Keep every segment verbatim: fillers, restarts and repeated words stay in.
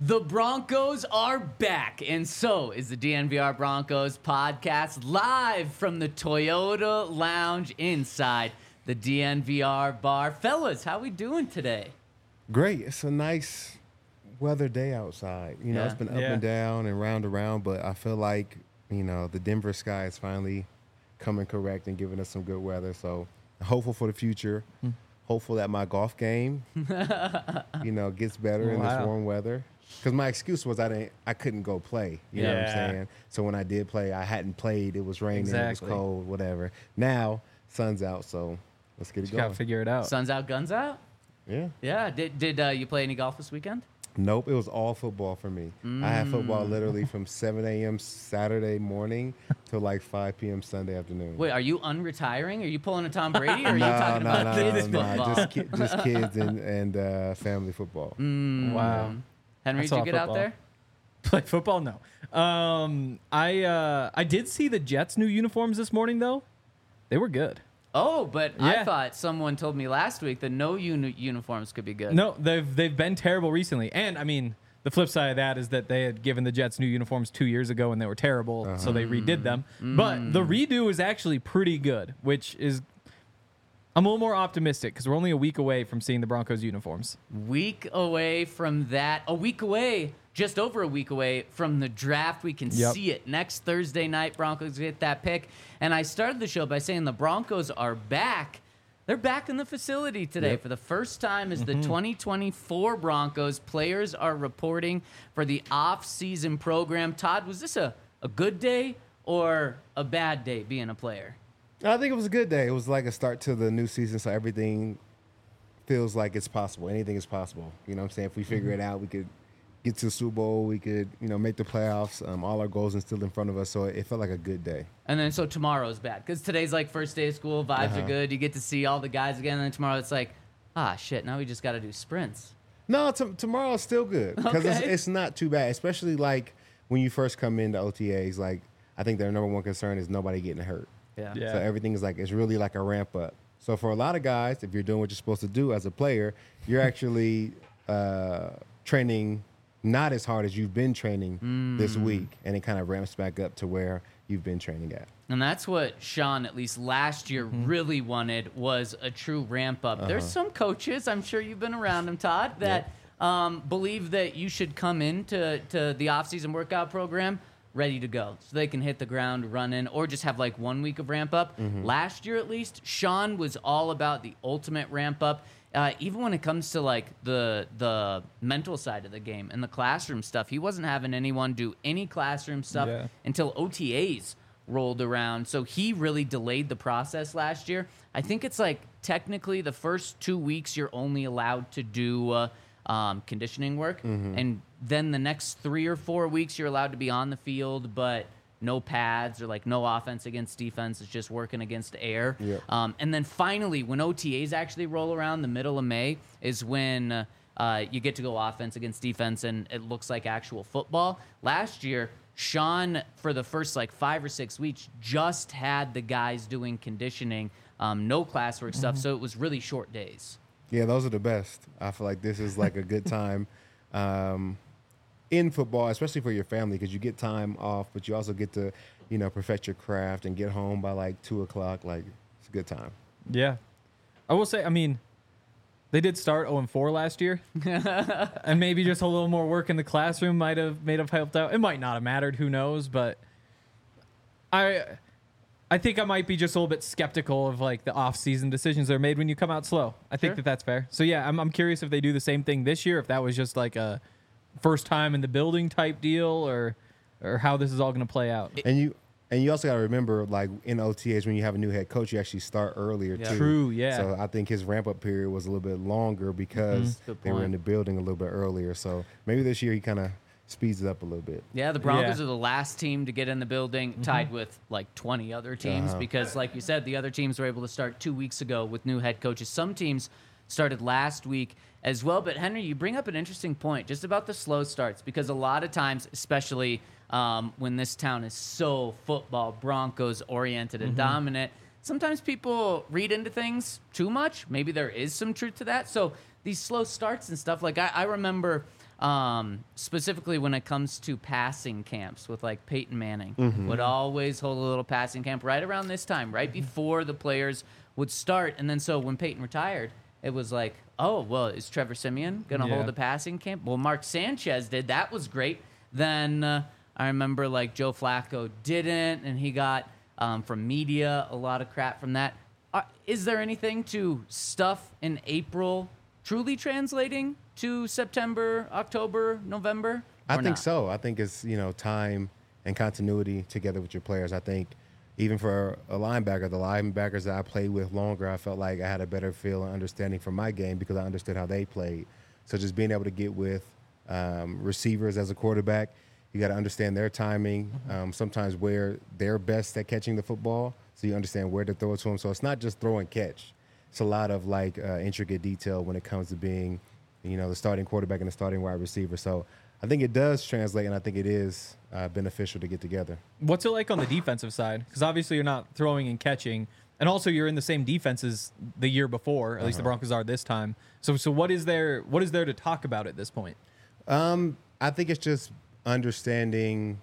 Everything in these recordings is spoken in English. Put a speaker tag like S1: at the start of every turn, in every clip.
S1: The Broncos are back, and so is the D N V R Broncos podcast live from the Toyota Lounge inside the D N V R bar. Fellas, how we doing today?
S2: Great. It's a nice weather day outside. You know,
S1: Yeah.
S2: it's been up
S3: Yeah.
S2: and down and round and round, but I feel like, you know, the Denver sky is finally coming correct and giving us some good weather. So hopeful for the future.
S3: Hmm.
S2: Hopeful that my golf game, you know, gets better in this
S3: Wow.
S2: warm weather. Because my excuse was I didn't, I couldn't go play. You know what I'm
S3: Yeah.
S2: saying? So when I did play, I hadn't played. It was raining.
S3: Exactly.
S2: It was cold. Whatever. Now sun's out, so let's get it
S3: Just
S2: going.
S3: gotta figure it out.
S1: Sun's out, guns out?
S2: Yeah.
S1: Yeah. Did did uh, you play any golf this weekend?
S2: Nope, it was all football for me. I had football literally from seven a.m. Saturday morning to like five p.m. Sunday afternoon.
S1: Wait, are you unretiring? Are you pulling a Tom Brady, or are you
S2: no,
S1: talking
S2: no,
S1: about
S2: no,
S1: kids
S2: no,
S1: football?
S2: no, just, ki- just kids and, and uh, family football.
S1: Mm.
S3: Wow.
S1: Henry,
S3: That's
S1: did you
S3: all
S1: get out
S3: football.
S1: there?
S3: Play football? No. Um, I uh, I did see the Jets' new uniforms this morning though. They were good.
S1: Oh, but I
S3: Yeah.
S1: thought someone told me last week that no uni- uniforms could be good.
S3: No, they've they've been terrible recently. And I mean, the flip side of that is that they had given the Jets new uniforms two years ago and they were terrible, so they redid them. But the redo is actually pretty good, which is I'm a little more optimistic because we're only a week away from seeing the Broncos uniforms.
S1: Week away from that. A week away, just over a week away from the draft. We can
S3: Yep.
S1: see it next Thursday night. Broncos get that pick. And I started the show by saying the Broncos are back. They're back in the facility today
S2: Yep.
S1: for the first time as the twenty twenty-four Broncos. Players are reporting for the off-season program. Todd, was this a, a good day or a bad day being a player?
S2: I think it was a good day. It was like a start to the new season, so everything feels like it's possible. Anything is possible. You know what I'm saying? If we figure it out, we could get to the Super Bowl. We could, you know, make the playoffs. Um, all our goals are still in front of us, so it felt like a good day.
S1: And then so tomorrow's bad because today's like first day of school, vibes
S2: Uh-huh.
S1: are good. You get to see all the guys again, and then tomorrow it's like, ah, shit. Now we just got to do sprints.
S2: No, t- tomorrow is still good because it's,
S1: Okay.
S2: it's not too bad, especially like when you first come into O T As. Like, I think their number one concern is nobody getting hurt.
S1: Yeah.
S3: Yeah.
S2: So everything is like, it's really like a ramp up. So for a lot of guys, if you're doing what you're supposed to do as a player, you're actually uh, training not as hard as you've been training this week, and it kind of ramps back up to where you've been training at.
S1: And that's what Sean, at least last year, really wanted was a true ramp up. There's some coaches, I'm sure you've been around them, Todd, that um, believe that you should come into to the off-season workout program ready to go so they can hit the ground running or just have like one week of ramp up. Last year, at least, Sean was all about the ultimate ramp up. Uh, even when it comes to like the the mental side of the game and the classroom stuff, he wasn't having anyone do any classroom stuff
S3: Yeah.
S1: until O T As rolled around. So he really delayed the process last year. I think it's like technically the first two weeks you're only allowed to do uh, um, conditioning work, and then the next three or four weeks you're allowed to be on the field, but no pads or like no offense against defense. It's just working against air.
S2: Yeah.
S1: Um, and then finally, when O T As actually roll around, the middle of May is when uh, uh, you get to go offense against defense, and it looks like actual football. Last year, Sean, for the first like five or six weeks, just had the guys doing conditioning, um, no classwork stuff, so it was really short days.
S2: Yeah, those are the best. I feel like this is like a good time um, in football, especially for your family, because you get time off, but you also get to, you know, perfect your craft and get home by like two o'clock. Like, it's a good time.
S3: Yeah. I will say, I mean, they did start oh and four last year. And maybe just a little more work in the classroom might have made have helped out. It might not have mattered, who knows, but I I think I might be just a little bit skeptical of like the off-season decisions that are made when you come out slow. I think
S1: Sure.
S3: that that's fair. So yeah, I'm I'm curious if they do the same thing this year, if that was just like a first time in the building type deal, or or how this is all going to play out.
S2: And you and you also got to remember, like in O T As, when you have a new head coach, you actually start earlier
S1: Yeah.
S2: too.
S3: True, yeah.
S2: So I think his ramp up period was a little bit longer because
S1: Good
S2: they were
S1: point.
S2: in the building a little bit earlier. So maybe this year he kind of speeds it up a little bit.
S1: Yeah, the Broncos
S3: Yeah.
S1: are the last team to get in the building, tied with like twenty other teams,
S2: Uh-huh.
S1: because, like you said, the other teams were able to start two weeks ago with new head coaches. Some teams started last week as well. But, Henry, you bring up an interesting point just about the slow starts, because a lot of times, especially um, when this town is so football, Broncos oriented and dominant, sometimes people read into things too much. Maybe there is some truth to that. So these slow starts and stuff, like I, I remember um, specifically when it comes to passing camps with like Peyton Manning,
S2: Mm-hmm.
S1: would always hold a little passing camp right around this time, right before the players would start. And then so when Peyton retired, it was like, oh, well, is Trevor Siemian going to
S3: Yeah.
S1: hold a passing camp? Well, Mark Sanchez did. That was great. Then uh, I remember like Joe Flacco didn't, and he got um, from media a lot of crap from that. Uh, is there anything to stuff in April truly translating to September, October, November?
S2: I
S1: or
S2: think
S1: not?
S2: so. I think it's, you know, time and continuity together with your players. I think even for a linebacker, the linebackers that I played with longer, I felt like I had a better feel and understanding for my game because I understood how they played. So just being able to get with um, receivers as a quarterback, you got to understand their timing, um, sometimes where they're best at catching the football, so you understand where to throw it to them. So it's not just throw and catch. It's a lot of like uh, intricate detail when it comes to being, you know, the starting quarterback and the starting wide receiver. So I think it does translate, and I think it is uh, beneficial to get together.
S3: What's it like on the defensive side? Because obviously you're not throwing and catching, and also you're in the same defense as the year before. At least the Broncos are this time. So, so what is there? What is there to talk about at this point?
S2: Um, I think it's just understanding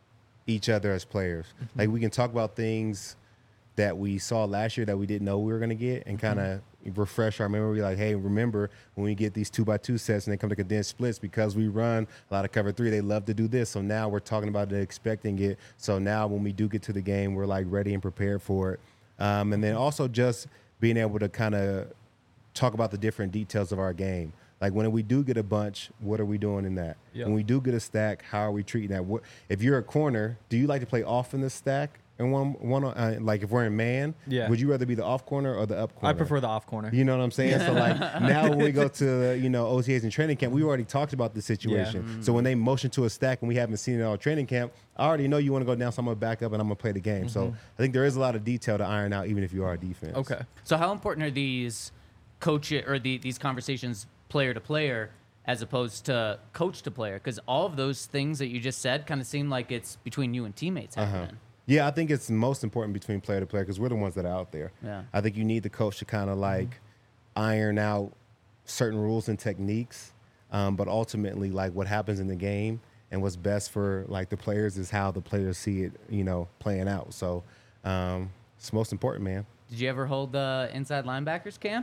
S2: each other as players.
S3: Mm-hmm.
S2: Like we can talk about things that we saw last year that we didn't know we were going to get and kind of refresh our memory. Like, hey, remember when we get these two by two sets and they come to condensed splits because we run a lot of cover three, they love to do this. So now we're talking about it, expecting it. So now when we do get to the game, we're like ready and prepared for it. Um, and then also just being able to kind of talk about the different details of our game. Like when we do get a bunch, what are we doing in that?
S3: Yep.
S2: When we do get a stack, how are we treating that? What, if you're a corner, do you like to play off in the stack? And one, one, uh, like if we're in man,
S3: Yeah.
S2: would you rather be the off corner or the up corner?
S3: I prefer the off corner.
S2: You know what I'm saying? So like now when we go to you know O T As and training camp, we already talked about the situation.
S3: Yeah.
S2: So when they motion to a stack and we haven't seen it all training camp, I already know you want to go down, so I'm gonna back up and I'm gonna play the game. So I think there is a lot of detail to iron out, even if you are a defense.
S3: Okay.
S1: So how important are these coach or the, these conversations player to player as opposed to coach to player? Because all of those things that you just said kind of seem like it's between you and teammates happening.
S2: Yeah, I think it's most important between player to player because we're the ones that are out there.
S1: Yeah.
S2: I think you need the coach to kind of like iron out certain rules and techniques, um, but ultimately, like what happens in the game and what's best for like the players is how the players see it, you know, playing out. So um, it's most important, man.
S1: Did you ever hold the inside linebackers camp?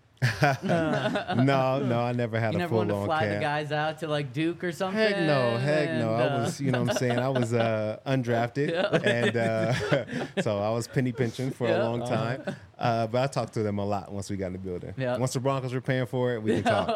S2: no, no, I never had
S1: You
S2: a
S1: never
S2: full
S1: wanted to
S2: on
S1: fly
S2: camp.
S1: the guys out to like Duke or something?
S2: Heck no, heck no.
S1: and,
S2: I
S1: uh,
S2: was, you know what I'm saying? I was uh, undrafted. And uh, so I was penny pinching for
S1: Yeah.
S2: a long time. Uh, but I talked to them a lot once we got in the building.
S1: Yeah.
S2: Once the Broncos were paying for it, we can talk.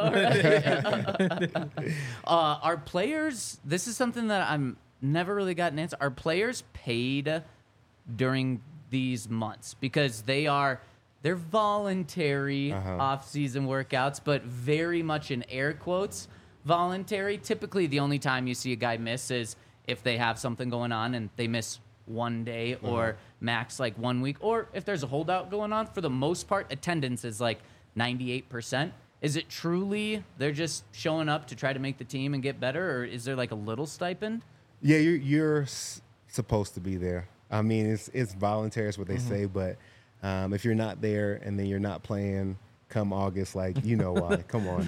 S1: Uh, are players, this is something that I'm never really got an answer. Are players paid during these months? Because they are, they're voluntary
S2: Uh-huh.
S1: off-season workouts, but very much in air quotes, voluntary. Typically, the only time you see a guy miss is if they have something going on and they miss one day or max like one week, or if there's a holdout going on. For the most part, attendance is like ninety-eight percent. Is it truly they're just showing up to try to make the team and get better, or is there like a little stipend?
S2: Yeah, you're, you're s- supposed to be there. I mean, it's it's voluntary, is what they say, but um, if you're not there and then you're not playing come August, like, you know why. Come on.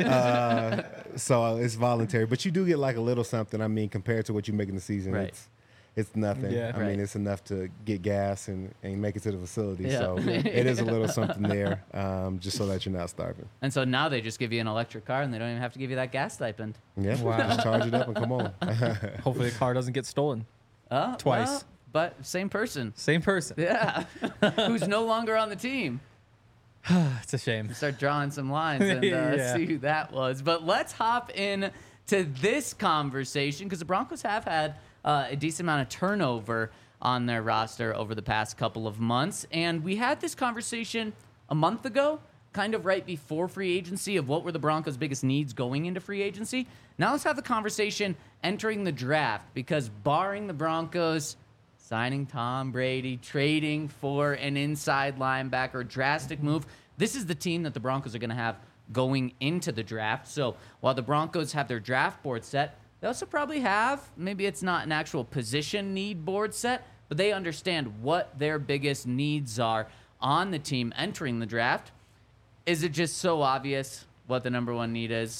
S2: Uh, so it's voluntary, but you do get like a little something. I mean, compared to what you make in the season,
S1: Right.
S2: it's it's nothing.
S3: Yeah.
S2: I
S1: Right.
S2: mean, it's enough to get gas and, and make it to the facility.
S1: Yeah.
S2: So it is a little something there, um, just so that you're not starving.
S1: And so now they just give you an electric car and they don't even have to give you that gas stipend.
S2: Yeah,
S3: Wow.
S2: just charge it up and come on.
S3: Hopefully the car doesn't get stolen.
S1: Uh,
S3: Twice.
S1: well, but same person.
S3: Same person.
S1: Yeah. Who's no longer on the team.
S3: It's a shame.
S1: Start drawing some lines and uh,
S3: Yeah.
S1: see who that was. But let's hop in to this conversation because the Broncos have had uh, a decent amount of turnover on their roster over the past couple of months. And we had this conversation a month ago, kind of right before free agency, of what were the Broncos' biggest needs going into free agency. Now let's have the conversation entering the draft because barring the Broncos signing Tom Brady, trading for an inside linebacker, drastic move, this is the team that the Broncos are going to have going into the draft. So while the Broncos have their draft board set, they also probably have, maybe it's not an actual position need board set, but they understand what their biggest needs are on the team entering the draft. Is it just so obvious what the number one need is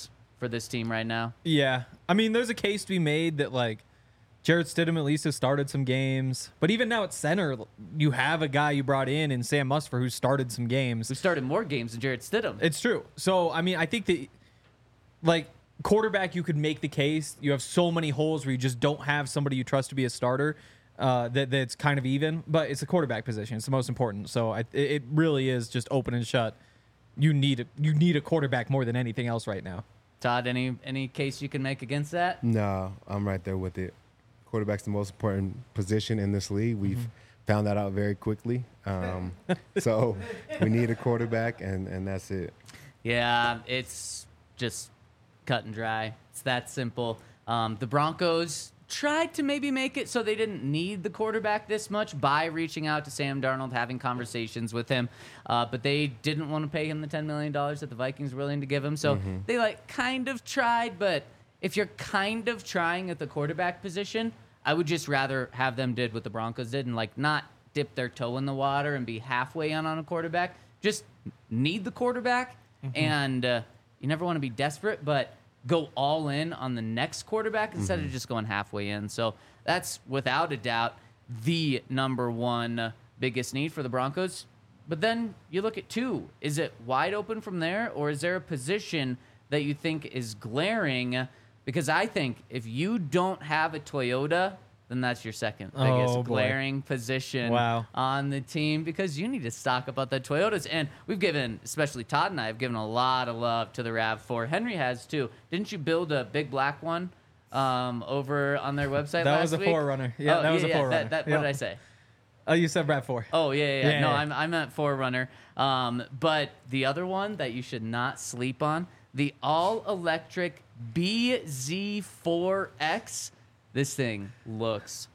S1: for this team right now.
S3: Yeah. I mean, there's a case to be made that, like, Jarrett Stidham at least has started some games. But even now at center, you have a guy you brought in in Sam Musfer who started some games.
S1: Who started more games than Jarrett Stidham.
S3: It's true. So, I mean, I think that, like, quarterback, you could make the case. You have so many holes where you just don't have somebody you trust to be a starter uh, that that's kind of even. But it's a quarterback position. It's the most important. So I, it really is just open and shut. You need a, you need a quarterback more than anything else right now.
S1: Todd, any any case you can make against that?
S2: No, I'm right there with it. Quarterback's the most important position in this league. We've mm-hmm. found that out very quickly. Um, so we need a quarterback, and, and that's it.
S1: Yeah, it's just cut and dry. It's that simple. Um, the Broncos tried to maybe make it so they didn't need the quarterback this much by reaching out to Sam Darnold, having conversations with him, uh, but they didn't want to pay him the ten million dollars that the Vikings were willing to give him. So mm-hmm. they like kind of tried, but if you're kind of trying at the quarterback position, I would just rather have them did what the Broncos did and like not dip their toe in the water and be halfway in on a quarterback. Just need the quarterback, mm-hmm. and uh, you never want to be desperate, but go all in on the next quarterback instead mm-hmm. of just going halfway in. So that's without a doubt the number one biggest need for the Broncos. But then you look at two. Is it wide open from there, or is there a position that you think is glaring? Because I think if you don't have a Toyota, then that's your second biggest
S3: oh,
S1: glaring position
S3: wow.
S1: on the team, because you need to stock up on the Toyotas. And we've given, especially Todd and I, have given a lot of love to the RAV four. Henry has too. Didn't you build a big black one um, over on their website
S3: that
S1: last
S3: was a
S1: week?
S3: four runner. Yeah,
S1: oh,
S3: that was
S1: yeah,
S3: a four
S1: yeah.
S3: runner.
S1: That, that,
S3: yep.
S1: What did I say?
S3: Oh, you said RAV four.
S1: Oh, yeah, yeah.
S3: yeah
S1: no,
S3: yeah.
S1: I'm, I'm at Forerunner. Um, but the other one that you should not sleep on, the all-electric B Z four X. This thing looks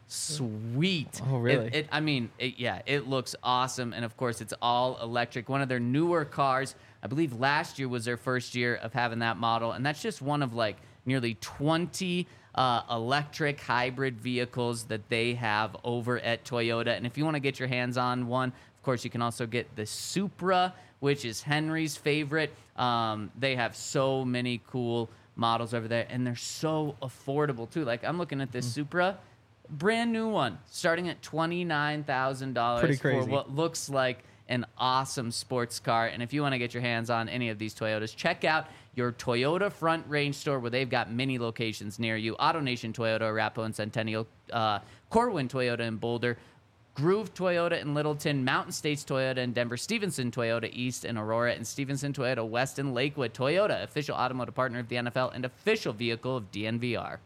S1: sweet.
S3: Oh, really?
S1: It, it, I mean, it, yeah, it looks awesome. And, of course, it's all electric. One of their newer cars. I believe last year was their first year of having that model. And that's just one of, like, nearly twenty uh, electric hybrid vehicles that they have over at Toyota. And if you want to get your hands on one, of course, you can also get the Supra, which is Henry's favorite. Um, they have so many cool models over there, and they're so affordable too. Like, I'm looking at this mm. Supra, brand new one, starting at twenty-nine thousand dollars for what looks like an awesome sports car. And if you want to get your hands on any of these Toyotas, check out your Toyota Front Range store, where they've got many locations near you. AutoNation Toyota, Arapahoe and Centennial, uh, Corwin Toyota in Boulder, Groove Toyota in Littleton, Mountain States Toyota in Denver, Stevenson Toyota East in Aurora, and Stevenson Toyota West in Lakewood. Toyota, official automotive partner of the N F L and official vehicle of D N V R.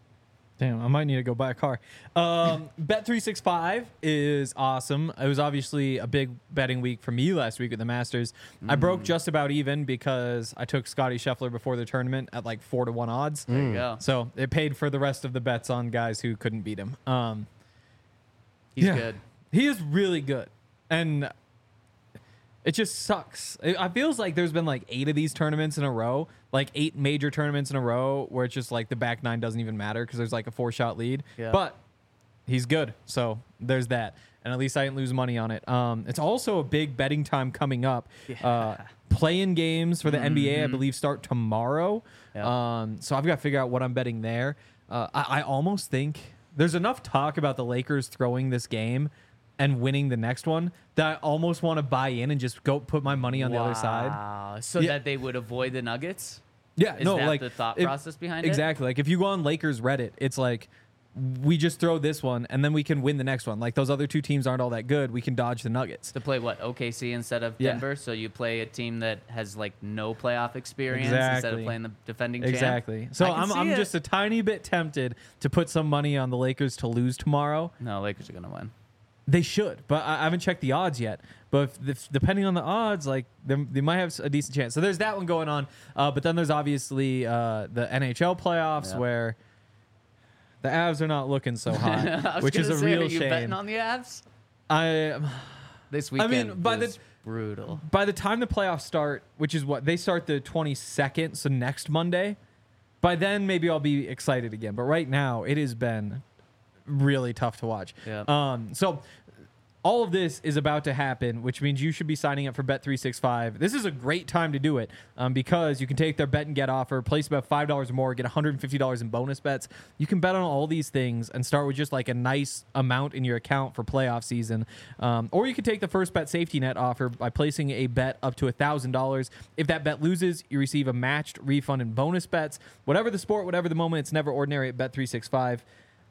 S3: Damn, I might need to go buy a car. Um, Bet three sixty-five is awesome. It was obviously a big betting week for me last week at the Masters. Mm. I broke just about even because I took Scotty Scheffler before the tournament at like four to one odds.
S1: There you go.
S3: So it paid for the rest of the bets on guys who couldn't beat him. Um,
S1: He's
S3: yeah,
S1: good.
S3: He is really good. And it just sucks. It, it feels like there's been like eight of these tournaments in a row, like eight major tournaments in a row where it's just like the back nine doesn't even matter because there's like a four-shot lead.
S1: Yeah.
S3: But he's good. So there's that. And at least I didn't lose money on it. Um, it's also a big betting time coming up.
S1: Yeah.
S3: Uh, play-in games for the
S1: mm-hmm.
S3: N B A, I believe, start tomorrow.
S1: Yeah.
S3: Um, so I've got to figure out what I'm betting there. Uh, I, I almost think there's enough talk about the Lakers throwing this game and winning the next one that I almost want to buy in and just go put my money on
S1: wow.
S3: the other side.
S1: Wow. So
S3: Yeah.
S1: that they would avoid the Nuggets?
S3: Yeah,
S1: Is
S3: no,
S1: that
S3: like
S1: the thought
S3: if-
S1: process behind it?
S3: Exactly. Like if you go on Lakers Reddit, it's like we just throw this one and then we can win the next one. Like those other two teams aren't all that good. We can dodge the Nuggets.
S1: To play what, O K C instead of
S3: Yeah.
S1: Denver? So you play a team that has like no playoff experience
S3: Exactly.
S1: instead of playing the defending champ?
S3: Exactly. So
S1: I can
S3: I'm
S1: see
S3: I'm
S1: it.
S3: just a tiny bit tempted to put some money on the Lakers to lose tomorrow.
S1: No, Lakers are going to win.
S3: They should, but I I haven't checked the odds yet. But if, if, depending on the odds, like they, they might have a decent chance. So there's that one going on. Uh, but then there's obviously uh, the N H L playoffs
S1: Yeah.
S3: where the Avs are not looking so hot,
S1: I was
S3: which is
S1: gonna
S3: a
S1: say,
S3: real
S1: are you
S3: shame.
S1: betting on the Avs?
S3: I
S1: This
S3: I
S1: weekend
S3: mean, by the-
S1: was brutal.
S3: by the time the playoffs start, which is what they start the twenty-second, so next Monday. By then, maybe I'll be excited again. But right now, it has been really tough to watch.
S1: Yeah.
S3: Um. So all of this is about to happen, which means you should be signing up for Bet three sixty-five. This is a great time to do it um, because you can take their bet and get offer, place about five dollars or more, get one hundred fifty dollars in bonus bets. You can bet on all these things and start with just like a nice amount in your account for playoff season. Um, or you can take the first bet safety net offer by placing a bet up to one thousand dollars. If that bet loses, you receive a matched refund in bonus bets. Whatever the sport, whatever the moment, it's never ordinary at Bet three sixty-five.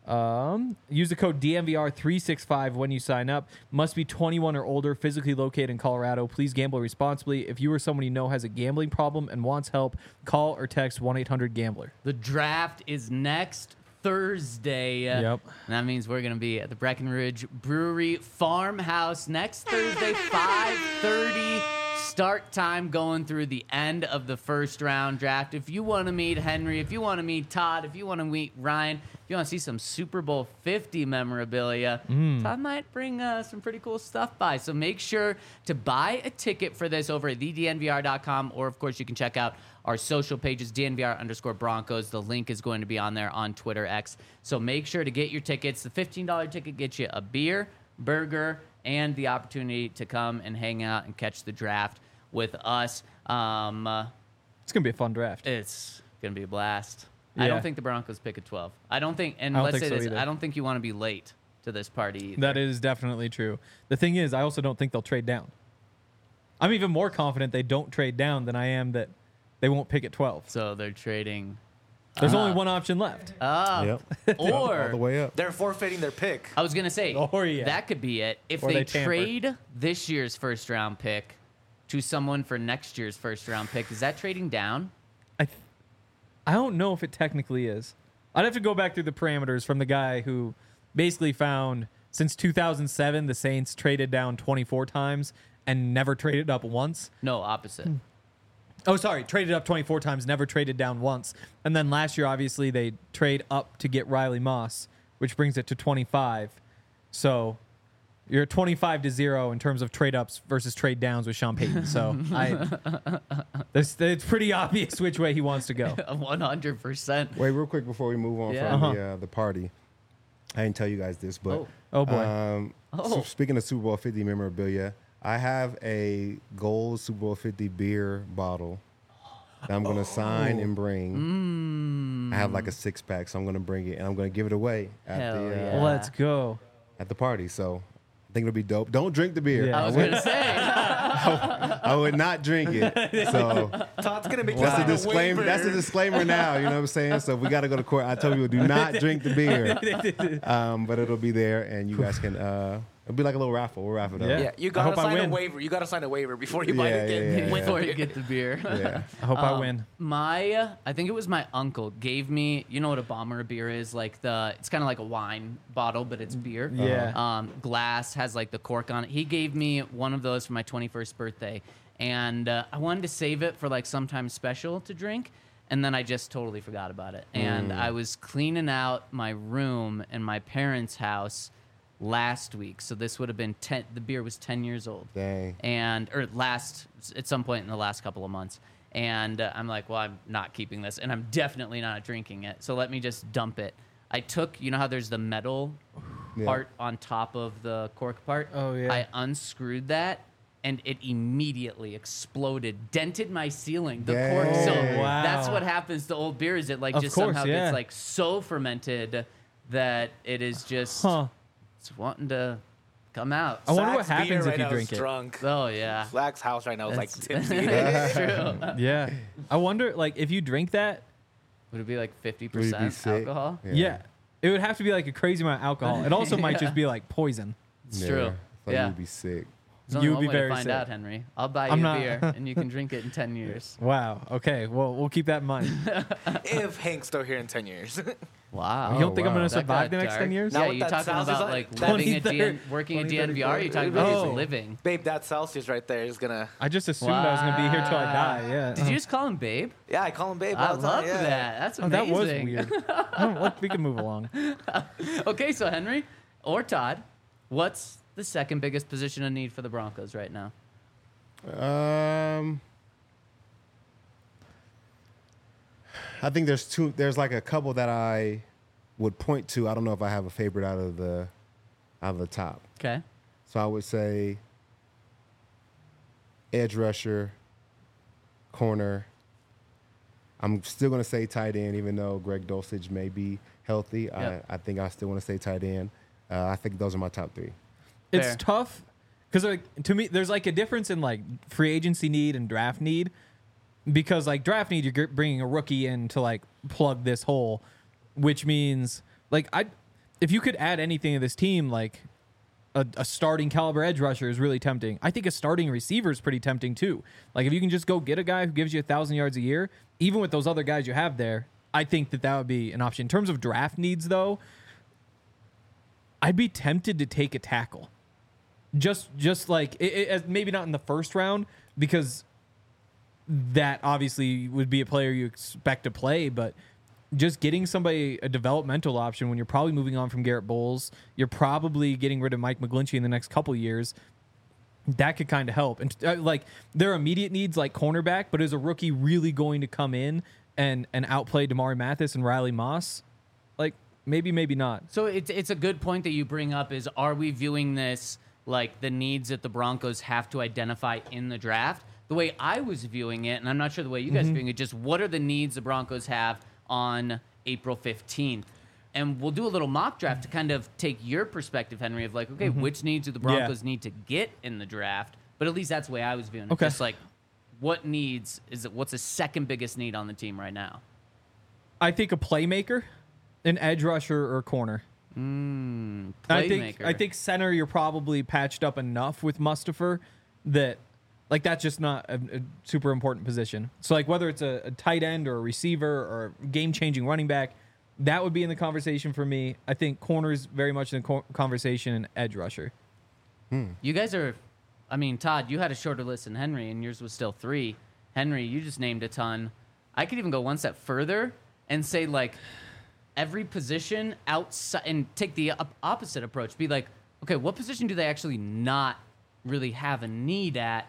S3: Um, use the code D N V R three sixty-five when you sign up. Must be twenty-one or older, physically located in Colorado. Please gamble responsibly. If you or someone you know has a gambling problem and wants help, call or text one eight hundred gambler.
S1: The draft is next Thursday.
S3: Yep.
S1: And that means we're going to be at the Breckenridge Brewery Farmhouse next Thursday, five thirty. Start time going through the end of the first round draft. If you want to meet Henry, if you want to meet Todd, if you want to meet Ryan, if you want to see some Super Bowl fifty memorabilia,
S3: Mm.
S1: Todd might bring uh, some pretty cool stuff by. So make sure to buy a ticket for this over at the D N V R dot com, or of course you can check out our social pages, D N V R underscore Broncos. The link is going to be on there on Twitter X. So make sure to get your tickets. The fifteen dollars ticket gets you a beer, burger, and the opportunity to come and hang out and catch the draft with us. Um, uh,
S3: It's going to be a fun draft.
S1: it's going to be a blast. I
S3: Yeah.
S1: don't think the Broncos pick at twelve. I don't think, and
S3: I don't
S1: let's
S3: think
S1: say
S3: so
S1: this,
S3: either.
S1: I don't think you want to be late to this party either.
S3: That is definitely true. The thing is, I also don't think they'll trade down. I'm even more confident they don't trade down than I am that they won't pick at twelve.
S1: So they're trading.
S3: There's
S1: Uh,
S3: only one option left.
S1: Uh,
S2: Yep.
S1: Or
S2: All the way up.
S4: They're forfeiting their pick.
S1: I was gonna say
S3: Or, yeah.
S1: that could be it. If
S3: Or
S1: they,
S3: they tamper.
S1: trade this year's first round pick to someone for next year's first round pick, is that trading down?
S3: I, th- I don't know if it technically is. I'd have to go back through the parameters from the guy who basically found since two thousand seven the Saints traded down twenty-four times and never traded up once.
S1: No, opposite.
S3: Oh, sorry, traded up twenty-four times, never traded down once. And then last year, obviously, they trade up to get Riley Moss, which brings it to twenty-five. So you're twenty-five to zero in terms of trade ups versus trade downs with Sean Payton. So I, this, it's pretty obvious which way he wants to go.
S1: one hundred percent.
S2: Wait, real quick before we move on
S1: Yeah.
S2: from
S3: Uh-huh.
S2: the uh, the party. I didn't tell you guys this, but
S1: Oh.
S3: Oh, boy.
S2: Um,
S1: Oh.
S2: so speaking of Super Bowl fifty memorabilia, I have a gold Super Bowl fifty beer bottle that I'm gonna sign and bring.
S1: Mm.
S2: I have like a six pack, so I'm gonna bring it and I'm gonna give it away at
S1: Hell
S2: the uh,
S1: yeah.
S3: Let's go.
S2: at the party. So I think it'll be dope. Don't drink the beer.
S3: Yeah.
S1: I was
S2: would,
S1: gonna say.
S2: I would not drink it. So
S4: Todd's gonna make
S2: that's a
S4: sign a
S2: disclaimer.
S4: waiver.
S2: That's a disclaimer now. You know what I'm saying? So if we got to go to court, I tell you, do not drink the beer. Um, but it'll be there, and you guys can. Uh, it'll be like a little raffle. We'll raffle it up.
S3: Yeah.
S4: Yeah, you
S3: I
S4: gotta
S3: hope I
S4: sign a
S3: win.
S4: waiver. You gotta sign a waiver before you buy
S2: Yeah,
S4: it again.
S2: yeah, yeah,
S4: Win
S2: yeah.
S1: Before
S4: the
S1: you
S4: beer.
S1: get the beer.
S2: Yeah.
S3: I hope I
S1: Um,
S3: win.
S1: My, uh, I think it was my uncle gave me. You know what a bomber beer is? Like the, it's kind of like a wine bottle, but it's beer.
S3: Yeah.
S1: Um, glass has like the cork on it. He gave me one of those for my twenty-first birthday, and uh, I wanted to save it for like sometime special to drink, and then I just totally forgot about it. And I was cleaning out my room in my parents' house last week, so this would have been ten. The beer was ten years old.
S2: Dang.
S1: And or last at some point in the last couple of months, and uh, I'm like, well, I'm not keeping this, and I'm definitely not drinking it. So let me just dump it. I took, you know how there's the metal
S2: Yeah.
S1: part on top of the cork part.
S3: Oh, yeah.
S1: I unscrewed that, and it immediately exploded, dented my ceiling. The cork.
S2: Dang.
S1: So
S3: Oh, wow.
S1: that's what happens to old beer. Is it like
S3: Of
S1: just
S3: course,
S1: somehow
S3: yeah.
S1: gets like so fermented that it is just
S3: Huh.
S1: it's wanting to come out.
S3: I wonder what
S4: Zach's beer
S3: happens
S4: right
S3: if you
S4: now
S3: drink
S4: is
S3: it.
S4: drunk.
S1: Oh yeah.
S4: Zach's house right now is like
S1: That's-
S4: tipsy.
S1: It's true.
S3: Yeah. I wonder, like, if you drink that,
S1: Would it be like fifty
S2: Would you be
S1: percent
S2: sick?
S1: alcohol?
S3: yeah. it would have to be like a crazy amount of alcohol. It also might just be like poison.
S1: It's
S2: Yeah.
S1: true.
S2: I thought
S1: Yeah.
S2: you'd be sick.
S1: There's only
S3: You would
S1: one
S3: be
S1: way
S3: very
S1: to find
S3: sick.
S1: out, Henry. I'll buy you
S3: I'm
S1: a
S3: not-
S1: beer, and you can drink it in ten years.
S3: Wow. Okay. Well, we'll keep that in mind.
S4: If Hank's still here in ten years.
S1: Wow.
S3: you don't think I'm
S2: wow.
S3: going to
S1: That
S3: survive the
S1: got
S3: next
S1: dark.
S3: ten years?
S1: Yeah,
S4: Now
S1: you
S4: with that
S1: talking
S4: Celsius
S1: about
S4: on-
S1: like
S4: that-
S1: living at D N,
S3: twenty-third
S1: working at
S3: twenty
S1: D N V R? You're talking about
S3: Oh.
S1: just living.
S4: Babe, that Celsius right there is gonna.
S3: I just assumed I was going to be here till I die. Yeah.
S1: Did you just call him Babe?
S4: Yeah, I call him Babe.
S1: I
S4: all the time,
S1: love
S4: yeah.
S1: that. That's
S3: Oh, that
S1: amazing.
S3: was weird. Oh, let- we can move along.
S1: Okay, so Henry or Todd, what's the second biggest position of need for the Broncos right now?
S2: Um, I think there's two. There's like a couple that I would point to. I don't know if I have a favorite out of the out of the top.
S1: Okay.
S2: So I would say edge rusher, corner. I'm still going to say tight end, even though Greg Dulcich may be healthy.
S1: Yep.
S2: I, I think I still want to say tight end. Uh, I think those are my top three.
S3: It's
S1: Fair.
S3: tough because like, to me, there's like a difference in like free agency need and draft need. Because like draft need, you're bringing a rookie in to like plug this hole, which means like I, if you could add anything to this team, like a, a starting caliber edge rusher is really tempting. I think a starting receiver is pretty tempting too. Like if you can just go get a guy who gives you a thousand yards a year, even with those other guys you have there, I think that that would be an option. In terms of draft needs, though, I'd be tempted to take a tackle. Just, just like it, it, maybe not in the first round because that obviously would be a player you expect to play, but just getting somebody a developmental option when you're probably moving on from Garrett Bowles, you're probably getting rid of Mike McGlinchey in the next couple years. That could kind of help. And uh, like there are immediate needs like cornerback, but is a rookie really going to come in and and outplay Damari Mathis and Riley Moss? Like maybe, maybe not.
S1: So it's it's a good point that you bring up. Is are we viewing this like the needs that the Broncos have to identify in the draft? The way I was viewing it, and I'm not sure the way you guys
S3: Mm-hmm.
S1: are viewing it, just what are the needs the Broncos have on April fifteenth? And we'll do a little mock draft to kind of take your perspective, Henry, of like, okay, which needs do the Broncos need to get in the draft? But at least that's the way I was viewing it.
S3: Okay.
S1: Just like, what needs is it? What's the second biggest need on the team right now?
S3: I think a playmaker, an edge rusher or corner.
S1: Mm,
S3: I think
S1: playmaker.
S3: I think center you're probably patched up enough with Mustafa that like that's just not a, a super important position. So like whether it's a, a tight end or a receiver or game changing running back, that would be in the conversation for me. I think corners very much in the co- conversation and edge rusher.
S1: You guys are, I mean, Todd, you had a shorter list than Henry, and yours was still three. Henry, you just named a ton. I could even go one step further and say, like, every position outside, and take the op- opposite approach. Be like, okay, what position do they actually not really have a need at?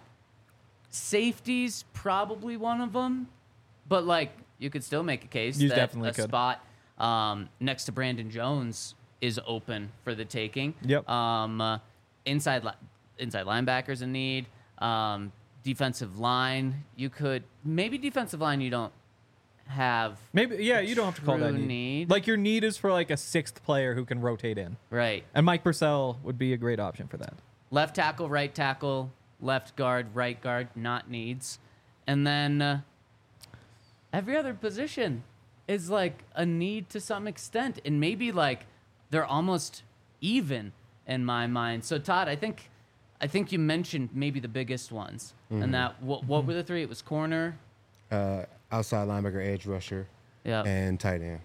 S1: Safety's probably one of them, but, like, you could still make a case
S3: You
S1: that
S3: definitely
S1: a
S3: could.
S1: spot um, next to Brandon Jones is open for the taking.
S3: Yep.
S1: Um, uh, inside li- inside linebackers in need. Um, defensive line, you could maybe defensive line. You don't have
S3: Maybe yeah, you don't have to call that
S1: true
S3: need.
S1: need.
S3: Like your need is for like a sixth player who can rotate in,
S1: right.
S3: and Mike Purcell would be a great option for that.
S1: Left tackle, right tackle, left guard, right guard, not needs, and then uh, every other position is like a need to some extent, and maybe like they're almost even in my mind. So Todd, I think I think you mentioned maybe the biggest ones, and that what what were the three? It was corner.
S2: Uh, outside linebacker, edge rusher,
S1: Yeah.
S2: and tight end.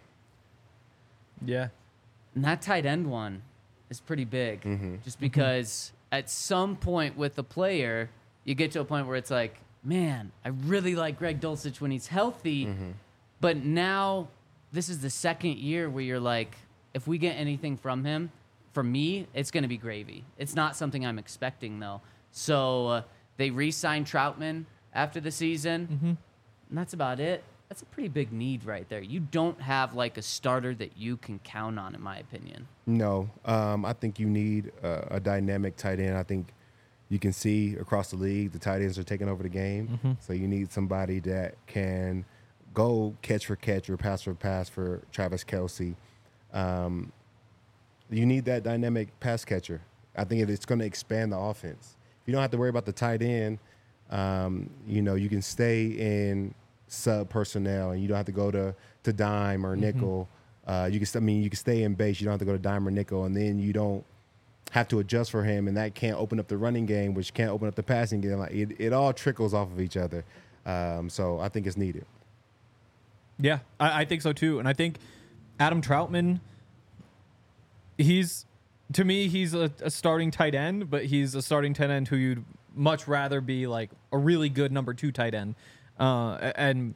S3: Yeah.
S1: And that tight end one is pretty big, just because at some point with the player, you get to a point where it's like, man, I really like Greg Dulcich when he's healthy, but now this is the second year where you're like, if we get anything from him, for me, it's going to be gravy. It's not something I'm expecting, though. So uh, they re-signed Troutman after the season, and that's about it. That's a pretty big need right there. You don't have like a starter that you can count on, in my opinion.
S2: No, um, I think you need a, a dynamic tight end. I think you can see across the league the tight ends are taking over the game. So you need somebody that can go catch for catch or pass for pass for Travis Kelce. Um, you need that dynamic pass catcher. I think it's going to expand the offense. You don't have to worry about the tight end. Um, you know, you can stay in sub personnel, and you don't have to go to, to dime or nickel. Uh, you can, st- I mean, you can stay in base. You don't have to go to dime or nickel, and then you don't have to adjust for him, and that can't open up the running game, which can't open up the passing game. Like it, it all trickles off of each other. Um, so I think it's needed.
S3: Yeah, I, I think so too. And I think Adam Troutman, he's, to me, he's a, a starting tight end, but he's a starting tight end who you'd much rather be like a really good number two tight end. Uh, and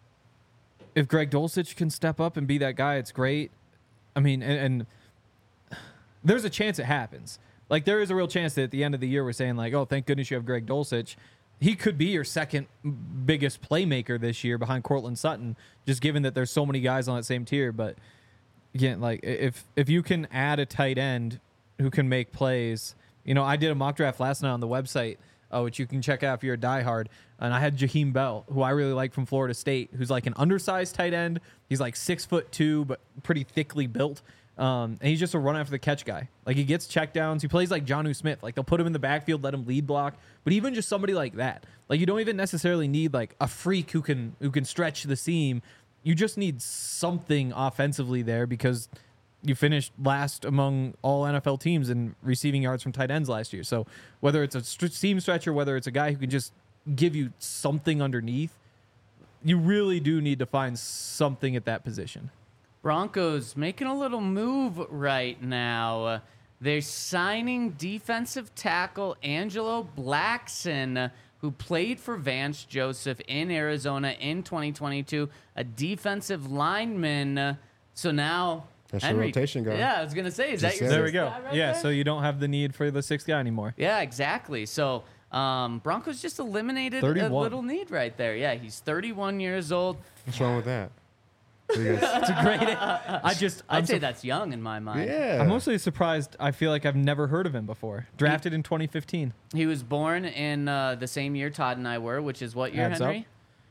S3: if Greg Dulcich can step up and be that guy, it's great. I mean, and, and there's a chance it happens. Like, there is a real chance that at the end of the year we're saying, like, oh, thank goodness you have Greg Dulcich. He could be your second biggest playmaker this year behind Courtland Sutton, just given that there's so many guys on that same tier. But again, like if if you can add a tight end who can make plays You know, I did a mock draft last night on the website, uh, which you can check out if you're a diehard. And I had Jaheim Bell, who I really like from Florida State, who's like an undersized tight end. He's like six foot two, but pretty thickly built. Um, and he's just a run after the catch guy. Like he gets checkdowns. He plays like Jonnu Smith. Like they'll put him in the backfield, let him lead block. But even just somebody like that, like you don't even necessarily need like a freak who can who can stretch the seam. You just need something offensively there because you finished last among all N F L teams in receiving yards from tight ends last year. So whether it's a st- seam stretcher, whether it's a guy who can just give you something underneath, you really do need to find something at that position.
S1: Broncos making a little move right now. Uh, they're signing defensive tackle Angelo Blackson, uh, who played for Vance Joseph in Arizona in twenty twenty-two, a defensive lineman. Uh, so now...
S2: That's your
S1: Henry,
S2: rotation guy.
S1: Yeah, I was going to say, is
S2: Just
S1: that your
S2: said
S3: There
S2: it.
S3: we
S1: sixth
S3: go.
S1: guy right
S3: yeah,
S1: there?
S3: so you don't have the need for the sixth guy anymore.
S1: Yeah, exactly. So um, Broncos just eliminated a
S3: thirty-one.
S1: little need right there. Yeah, he's thirty-one years old.
S2: What's wrong with that? You guys-
S3: It's a great. I just. I'm
S1: I'd say
S3: sur-
S1: that's young in my mind.
S2: yeah.
S3: I'm mostly surprised. I feel like I've never heard of him before. Drafted in twenty fifteen.
S1: He was born in uh, the same year Todd and I were, which is what year,
S3: Adds up.
S1: Henry?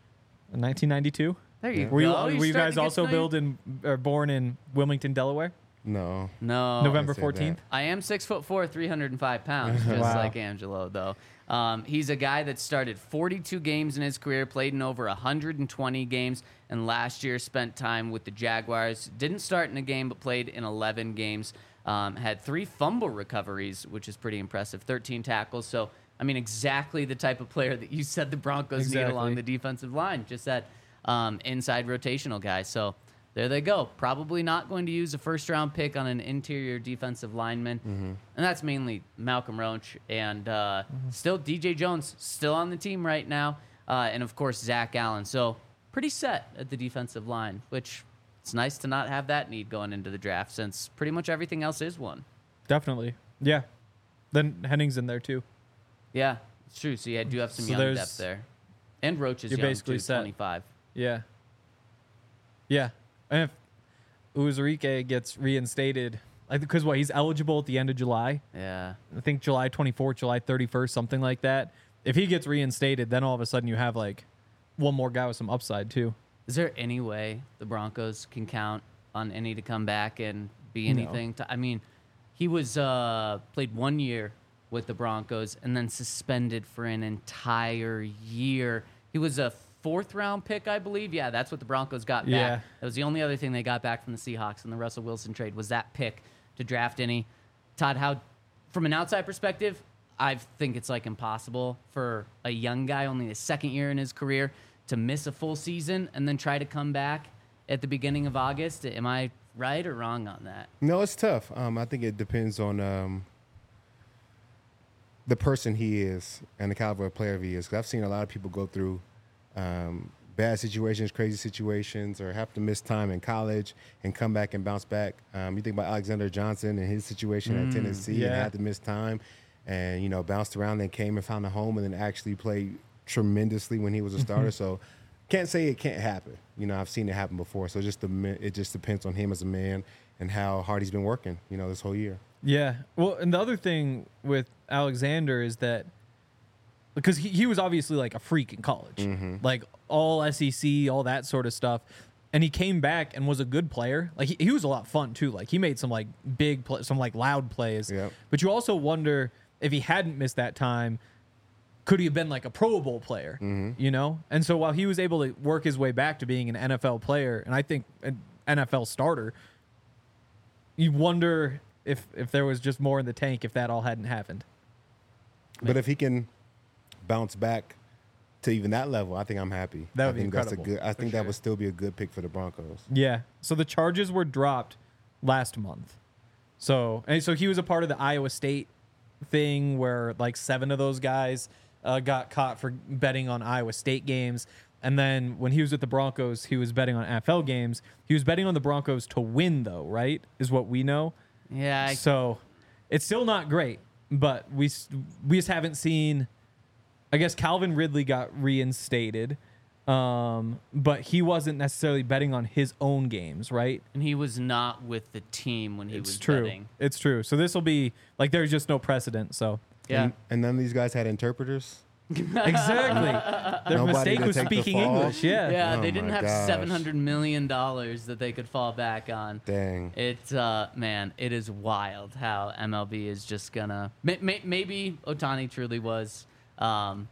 S3: In nineteen ninety-two.
S1: There you
S3: Were you,
S1: go. You're
S3: were you
S1: starting
S3: guys
S1: to get
S3: also
S1: familiar.
S3: built in or born in Wilmington, Delaware?
S2: No.
S1: No.
S3: November
S2: I said
S3: fourteenth.
S1: I am six foot four, three hundred five pounds, just
S3: Wow.
S1: like Angelo, though. Um, he's a guy that started forty-two games in his career, played in over one hundred twenty games, and last year spent time with the Jaguars. Didn't start in a game, but played in eleven games. Um, had three fumble recoveries, which is pretty impressive. thirteen tackles. So, I mean, exactly the type of player that you said the Broncos need
S3: Exactly.
S1: along the defensive line. Just that um, inside rotational guy. So there they go. Probably not going to use a first round pick on an interior defensive lineman.
S2: Mm-hmm.
S1: And that's mainly Malcolm Roach. And uh, still D J Jones, still on the team right now. Uh, and of course, Zach Allen. So pretty set at the defensive line, which it's nice to not have that need going into the draft since pretty much everything else is one.
S3: Definitely. Yeah. Then Henning's in there too.
S1: Yeah, it's true. So you do have some
S3: So
S1: young
S3: there's-
S1: depth there. And Roach is
S3: You're
S1: young,
S3: basically
S1: too,
S3: set.
S1: twenty-five.
S3: Yeah. Yeah. And if Uzurike gets reinstated, like because what he's eligible at the end of July.
S1: Yeah.
S3: I think July twenty-fourth, July thirty-first, something like that. If he gets reinstated, then all of a sudden you have like one more guy with some upside too.
S1: Is there any way the Broncos can count on any to come back and be
S3: No.
S1: anything? To, I mean, he was uh, played one year with the Broncos and then suspended for an entire year. He was a fourth round pick, I believe. Yeah, that's what the Broncos got back.
S3: Yeah.
S1: That was the only other thing they got back from the Seahawks in the Russell Wilson trade was that pick to draft any. Todd, how, from an outside perspective, I think it's like impossible for a young guy, only the second year in his career, to miss a full season and then try to come back at the beginning of August. Am I right or wrong on that?
S2: No, it's tough. Um, I think it depends on um, the person he is and the caliber of player he is. Because I've seen a lot of people go through um, bad situations, crazy situations, or have to miss time in college and come back and bounce back. Um, you think about Alexander Johnson and his situation at Tennessee and
S3: yeah.
S2: had to miss time and, you know, bounced around, then came and found a home and then actually played tremendously when he was a starter. So can't say it can't happen. You know, I've seen it happen before. So just the, it just depends on him as a man and how hard he's been working, you know, this whole year.
S3: Yeah. Well, and the other thing with Alexander is that because he, he was obviously like a freak in college, like all S E C, all that sort of stuff. And he came back and was a good player. Like he, he was a lot of fun too. Like he made some like big, play, some like loud plays.
S2: Yep.
S3: But you also wonder if he hadn't missed that time, could he have been like a Pro Bowl player? You know. And so while he was able to work his way back to being an N F L player, and I think an N F L starter, you wonder if if there was just more in the tank if that all hadn't happened.
S2: But if he can bounce back to even that level, I think I'm happy.
S3: That would
S2: I
S3: be
S2: think
S3: incredible,
S2: That's a good, I
S3: for
S2: think that
S3: sure.
S2: would still be a good pick for the Broncos.
S3: Yeah. So the charges were dropped last month. So and so he was a part of the Iowa State thing where like seven of those guys uh, got caught for betting on Iowa State games. And then when he was with the Broncos, he was betting on N F L games. He was betting on the Broncos to win, though, right? Is what we know.
S1: Yeah. I,
S3: So it's still not great, but we s- we just haven't seen. I guess Calvin Ridley got reinstated. Um, but he wasn't necessarily betting on his own games, right?
S1: And he was not with the team when he
S3: It's
S1: was
S3: true.
S1: betting.
S3: It's true. So this will be like there's just no precedent. So
S1: Yeah.
S2: And, and none of these guys had interpreters.
S3: exactly, their
S2: Nobody
S3: mistake
S2: to
S3: was
S2: take the
S3: speaking
S2: fall?
S3: English. Yeah.
S1: Yeah,
S2: Oh
S1: they didn't
S2: my
S1: have
S2: gosh.
S1: seven hundred million dollars that they could fall back on.
S2: Dang.
S1: It's uh man, it is wild how M L B is just gonna may, may, maybe Otani truly was um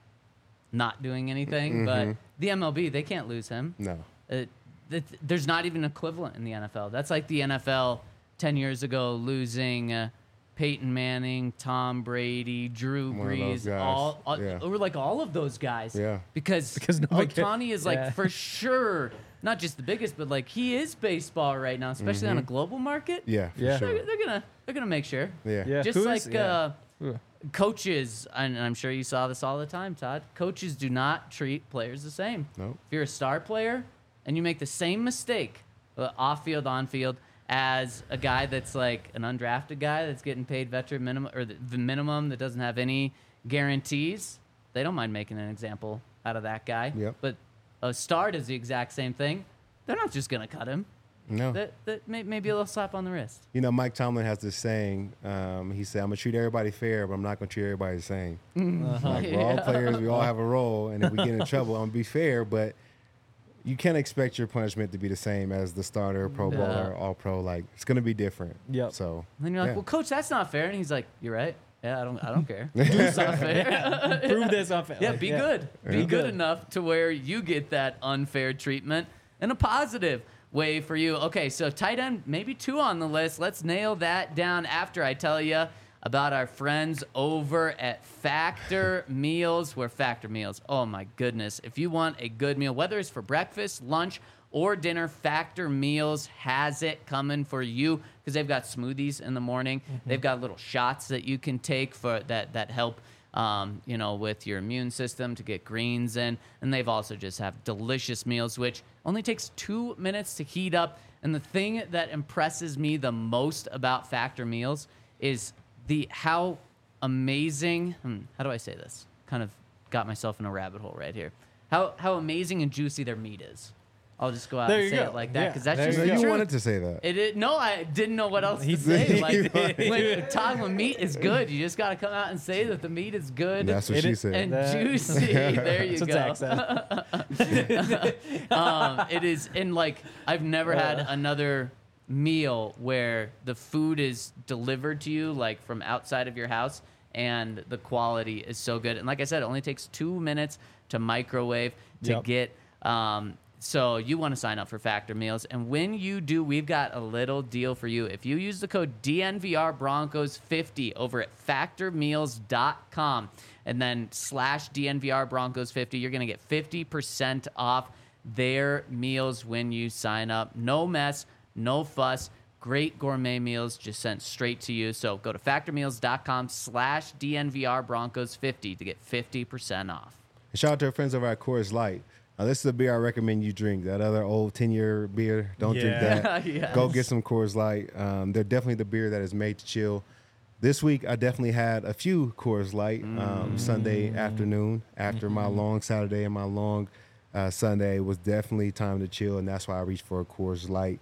S1: not doing anything, but the M L B, they can't lose him.
S2: No.
S1: It, it, there's not even an equivalent in the N F L. That's like the N F L ten years ago losing uh, Peyton Manning, Tom Brady, Drew
S2: One of those
S1: Brees,
S2: guys.
S1: all, all
S2: Yeah.
S1: or like all of those guys.
S2: Yeah.
S1: Because
S3: Because nobody ca-
S1: Otani is like
S3: yeah.
S1: for sure not just the biggest, but like he is baseball right now, especially on a global market.
S2: Yeah, for
S3: Yeah.
S2: sure.
S1: They're, they're gonna they're gonna make sure.
S2: Yeah.
S3: Yeah.
S1: Just
S3: Who
S1: like
S3: is- yeah.
S1: uh,
S3: Ugh.
S1: coaches, and I'm sure you saw this all the time, Todd. Coaches do not treat players the same.
S2: Nope.
S1: If you're a star player and you make the same mistake, uh, off field, on field, as a guy that's like an undrafted guy that's getting paid veteran minimum or the, the minimum that doesn't have any guarantees, they don't mind making an example out of that guy.
S2: Yep.
S1: But a star does the exact same thing. They're not just gonna cut him.
S2: No.
S1: That, that may, maybe a little slap on the wrist.
S2: You know, Mike Tomlin has this saying. Um, he said, "I'm gonna treat everybody fair, but I'm not gonna treat everybody the same. Like we're all
S1: Yeah.
S2: players, we all have a role, and if we get in trouble, I'm gonna be fair, but you can't expect your punishment to be the same as the starter, Pro Bowler, All Pro. Like it's gonna be different.
S3: Yep.
S2: So
S1: And then you're like,
S2: yeah.
S1: well, coach, that's not fair. And he's like, you're right. Yeah, I don't, I don't care. It's not fair.
S3: Prove this off.
S1: Yeah, be good. Be
S2: Yeah.
S1: good
S3: good.
S1: enough to where you get that unfair treatment in a positive way for you. Okay, so tight end, maybe two on the list. Let's nail that down after I tell you about our friends over at Factor Meals. Where Factor Meals, oh my goodness. If you want a good meal, whether it's for breakfast, lunch, or dinner, Factor Meals has it coming for you because they've got smoothies in the morning. They've got little shots that you can take for that that help um, you know, with your immune system to get greens in. And they've also just have delicious meals, which only takes two minutes to heat up. And the thing that impresses me the most about Factor Meals is the how amazing, hmm, how do I say this? Kind of got myself in a rabbit hole right here. How how amazing and juicy their meat is. I'll just go out
S3: There
S1: and
S3: you
S1: say
S3: go.
S1: it like that
S3: Yeah,
S1: because that's
S3: there
S1: just
S2: So
S1: the
S2: you
S1: truth.
S2: wanted to say that.
S1: It, it, no, I didn't know what else
S3: He
S1: to say.
S3: did.
S1: Like, when, Todd, when meat is good, you just got to come out and say that the meat is good
S2: That's what
S3: It
S2: she
S3: is-
S2: said.
S1: and
S3: That-
S1: juicy. There you
S3: That's what
S1: go.
S3: Zach said.
S1: um, it is, and like I've never had another meal where the food is delivered to you like from outside of your house, and the quality is so good. And like I said, it only takes two minutes to microwave to
S3: Yep.
S1: get. Um, So you want to sign up for Factor Meals, and when you do, we've got a little deal for you. If you use the code D N V R Broncos fifty over at factor meals dot com and then slash D N V R Broncos fifty, you're going to get fifty percent off their meals when you sign up. No mess, no fuss. Great gourmet meals just sent straight to you. So go to factor meals dot com slash D N V R Broncos fifty to get fifty percent off.
S2: And shout out to our friends over at Coors Light. Now, this is a beer I recommend you drink. That other old ten-year beer, don't drink
S3: Yeah.
S2: that.
S1: Yes.
S2: Go get some Coors Light. Um, they're definitely the beer that is made to chill. This week, I definitely had a few Coors Light um, Sunday afternoon after my long Saturday and my long uh, Sunday. It was definitely time to chill, and that's why I reached for a Coors Light.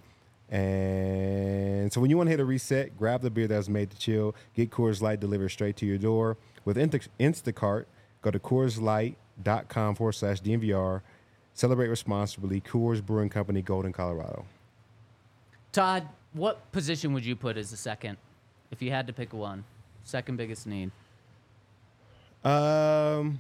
S2: And so when you want to hit a reset, grab the beer that's made to chill. Get Coors Light delivered straight to your door. With Insta- Instacart, go to coors light dot com forward slash D N V R. Celebrate responsibly. Coors Brewing Company, Golden, Colorado.
S1: Todd, what position would you put as the second if you had to pick one? Second biggest need.
S2: Um,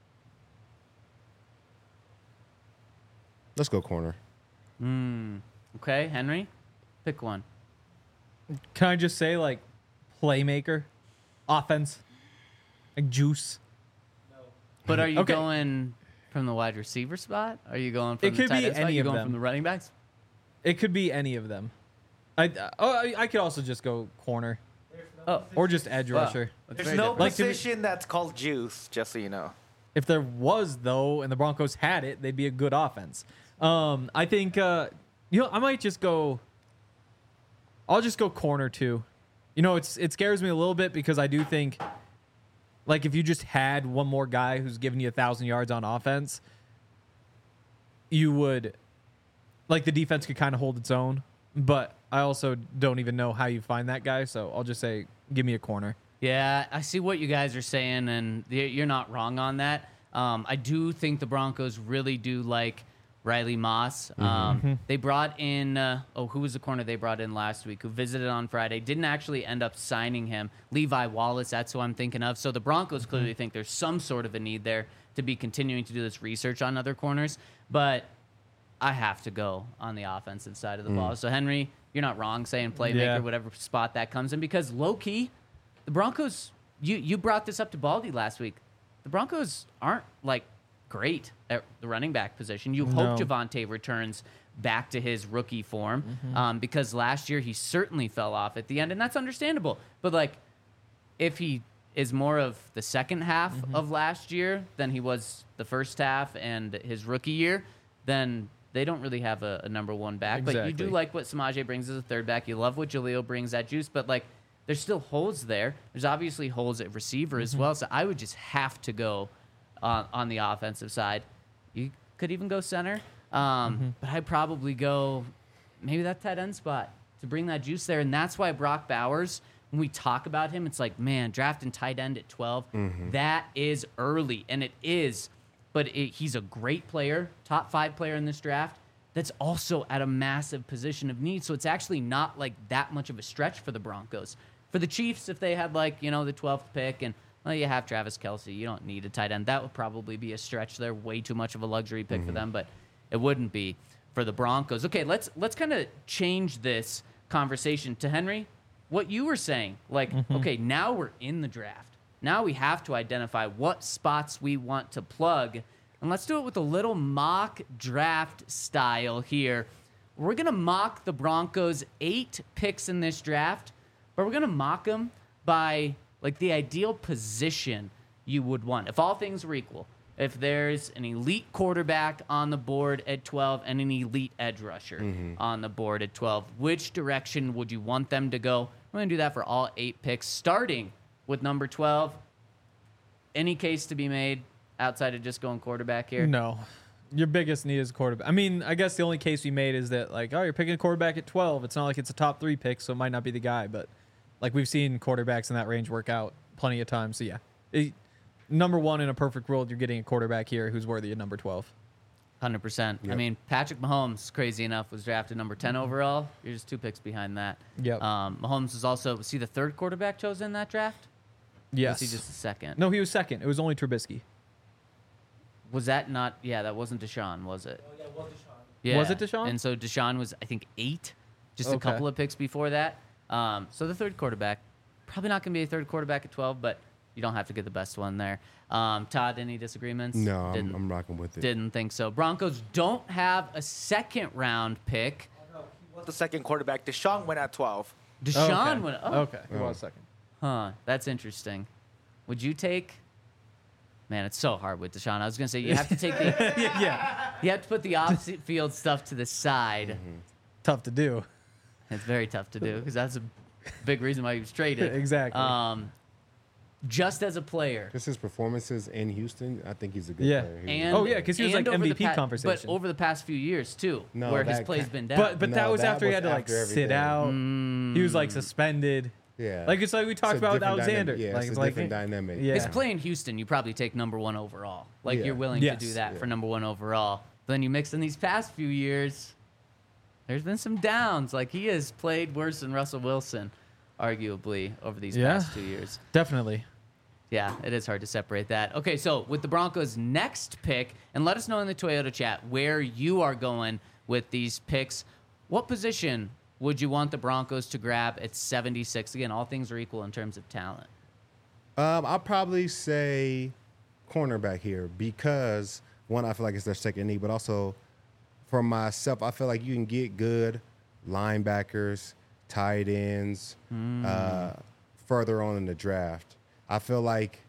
S2: let's go corner.
S1: Okay, Henry, pick one.
S3: Can I just say like playmaker, offense, like juice?
S1: But are you
S3: Okay.
S1: going from the wide receiver spot? Are you going from
S3: It
S1: the
S3: could
S1: tight
S3: be
S1: end spot?
S3: any
S1: you
S3: of
S1: going
S3: them.
S1: from the running backs?
S3: It could be any of them. I oh I, I could also just go corner
S1: Oh,
S3: or just edge
S1: Wow.
S3: rusher.
S1: that's
S4: There's
S1: very
S4: no
S1: different.
S3: Like to be-
S4: position that's called juice, just so you know.
S3: If there was though, and the Broncos had it, they'd be a good offense. Um, I think uh, you know I might just go. I'll just go corner too. You know, it's it scares me a little bit because I do think, like, if you just had one more guy who's giving you a thousand yards on offense, you would like the defense could kind of hold its own, but I also don't even know how you find that guy. So I'll just say, give me a corner.
S1: Yeah, I see what you guys are saying, and y- you're not wrong on that. Um, I do think the Broncos really do like Riley Moss. Um, They brought in, uh, oh, who was the corner they brought in last week who visited on Friday? Didn't actually end up signing him. Levi Wallace, that's who I'm thinking of. So the Broncos clearly think there's some sort of a need there to be continuing to do this research on other corners. But I have to go on the offensive side of the ball. So, Henry, you're not wrong saying playmaker,
S3: Yeah.
S1: whatever spot that comes in, because low-key, the Broncos, you, you brought this up to Baldy last week. The Broncos aren't, like, great at the running back position. You hope
S3: No.
S1: Javonte returns back to his rookie form um, because last year he certainly fell off at the end, and that's understandable. But, like, if he is more of the second half of last year than he was the first half and his rookie year, then they don't really have a, a number one back. But you do
S3: Exactly.
S1: like what Samaje brings as a third back. You love what Jaleel brings, that juice. But, like, there's still holes there. There's obviously holes at receiver as well. So I would just have to go on, on the offensive side. You could even go center. Um, But I'd probably go maybe that tight end spot to bring that juice there. And that's why Brock Bowers, when we talk about him, it's like, man, drafting tight end at twelve, that is early. And it is. But it, he's a great player, top five player in this draft. That's also at a massive position of need. So it's actually not like that much of a stretch for the Broncos. For the Chiefs, if they had like, you know, the twelfth pick and, well, you have Travis Kelce, you don't need a tight end. That would probably be a stretch. They're way too much of a luxury pick for them, but it wouldn't be for the Broncos. Okay, let's let's kind of change this conversation to Henry. What you were saying, like, okay, now we're in the draft. Now we have to identify what spots we want to plug. And let's do it with a little mock draft style here. We're going to mock the Broncos' eight picks in this draft, but we're going to mock them by, like, the ideal position you would want. If all things were equal, if there's an elite quarterback on the board at twelve and an elite edge rusher on the board at twelve, which direction would you want them to go? We're going to do that for all eight picks, starting with number twelve. Any case to be made outside of just going quarterback here?
S3: No. Your biggest need is a quarterback. I mean, I guess the only case we made is that, like, oh, you're picking a quarterback at twelve. It's not like it's a top three pick, so it might not be the guy. But, like, we've seen quarterbacks in that range work out plenty of times. So, yeah. It, number one, in a perfect world, you're getting a quarterback here who's worthy of number twelve.
S1: one hundred percent. I
S2: Yep.
S1: mean, Patrick Mahomes, crazy enough, was drafted number ten overall. You're just two picks behind that.
S3: Yep.
S1: Um, Mahomes was also, was he the third quarterback chosen in that draft? Or
S3: Yes.
S1: was he just the second?
S3: No, he was second. It was only Trubisky.
S1: Was that not, yeah, that wasn't Deshaun, was it? Oh, yeah, it was Deshaun. Yeah.
S3: Was it Deshaun?
S1: And so Deshaun was, I think, eight, just a
S3: Okay.
S1: couple of picks before that. Um, so the third quarterback, probably not going to be a third quarterback at twelve, but you don't have to get the best one there. Um, Todd, any disagreements?
S2: No, I'm,
S1: Didn't,
S2: I'm rocking with it.
S1: didn't think so. Broncos don't have a second round pick.
S4: The second quarterback, Deshaun went at twelve.
S1: Deshaun
S3: okay.
S1: went, oh,
S3: Okay. He was second.
S1: huh, that's interesting. Would you take? Man, it's so hard with Deshaun. I was gonna say you have to take the,
S3: yeah.
S1: you have to put the off-field stuff to the side.
S3: Tough to do.
S1: It's very tough to do because that's a big reason why he was traded.
S3: Exactly.
S1: Um, just as a player,
S2: Just his performances in Houston, I think he's a good
S3: Yeah.
S2: player. He was
S1: and
S3: Oh, yeah, 'cause he was,
S1: and
S3: like,
S1: over the
S3: M V P
S1: pa-
S3: conversation.
S1: but over the past few years too,
S2: No,
S1: where his
S2: that
S1: play's
S2: ca-
S1: been down.
S3: But but that
S2: No,
S3: was
S2: that
S3: after he
S2: was
S3: had to, like,
S2: after
S3: sit
S2: everything.
S3: out. He was, like, suspended.
S2: Yeah.
S3: Like, it's like we talked
S2: It's a
S3: about with
S2: different
S3: Alexander.
S2: dynamic. Yeah,
S3: like,
S2: it's
S3: it's
S2: a
S3: like,
S2: different dynamic.
S3: Yeah.
S1: His play in Houston, you probably take number one overall. Like
S2: Yeah.
S1: you're willing
S3: Yes.
S1: to do that
S2: Yeah.
S1: for number one overall. But then you mix in these past few years, there's been some downs. Like he has played worse than Russell Wilson, arguably, over these
S3: Yeah.
S1: past two years.
S3: Definitely.
S1: Yeah, it is hard to separate that. Okay, so with the Broncos' next pick, and let us know in the Toyota chat where you are going with these picks. What position would you want the Broncos to grab at seventy-six? Again, all things are equal in terms of talent.
S2: Um, I'll probably say cornerback here because one, I feel like it's their second need, but also for myself, I feel like you can get good linebackers, tight ends, uh, further on in the draft. I feel like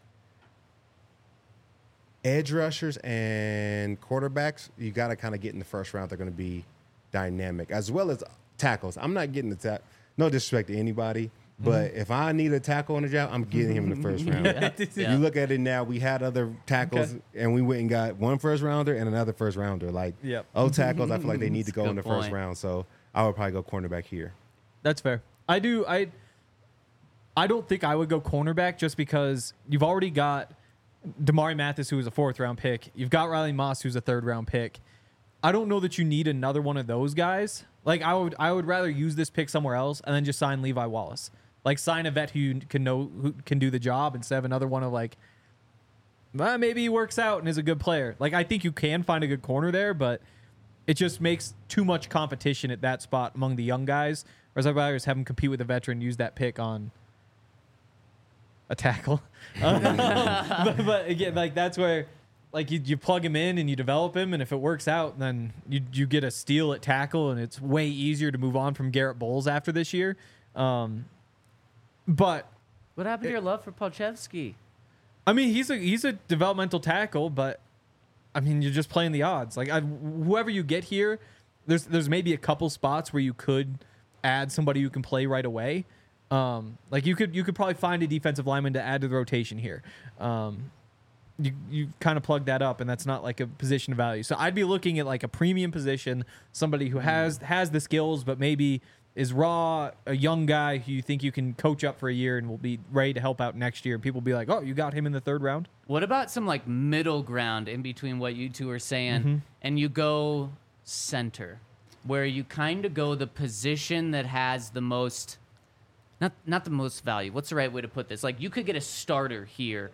S2: edge rushers and quarterbacks, you got to kind of get in the first round. They're going to be dynamic, as well as tackles. I'm not getting the tack. No disrespect to anybody, But if I need a tackle on the draft, I'm getting him in the first round.
S1: Yeah.
S2: You look at it now, we had other tackles,
S3: Okay.
S2: and we went and got one first rounder and another first rounder. Like,
S3: Yep.
S2: O tackles, I feel like they need to
S1: That's a
S2: go in
S1: good
S2: the first
S1: point.
S2: round. So I would probably go cornerback here.
S3: That's fair. I do. I. I don't think I would go cornerback just because you've already got Damari Mathis, who is a fourth round pick. You've got Riley Moss, who's a third round pick. I don't know that you need another one of those guys. Like I would, I would rather use this pick somewhere else and then just sign Levi Wallace. Like sign a vet who you can know who can do the job instead of another one of like, well, maybe he works out and is a good player. Like I think you can find a good corner there, but it just makes too much competition at that spot among the young guys. Whereas I'd rather just have him compete with a veteran, use that pick on a tackle. Uh, but, but again, like that's where like you, you plug him in and you develop him, and if it works out, then you you get a steal at tackle, and it's way easier to move on from Garrett Bowles after this year. Um, but
S1: What happened to your love for Polchevsky?
S3: I mean, he's a he's a developmental tackle, but I mean, you're just playing the odds. Like I, whoever you get here, there's there's maybe a couple spots where you could add somebody who can play right away. Um, like you could you could probably find a defensive lineman to add to the rotation here. Um, you you kind of plug that up, and that's not like a position of value. So I'd be looking at like a premium position, somebody who has has the skills, but maybe is raw, a young guy who you think you can coach up for a year and will be ready to help out next year. And people will be like, oh, you got him in the third round?
S1: What about some like middle ground in between what you two are saying,
S3: Mm-hmm.
S1: and you go center, where you kind of go the position that has the most, not not the most value. What's the right way to put this? Like you could get a starter here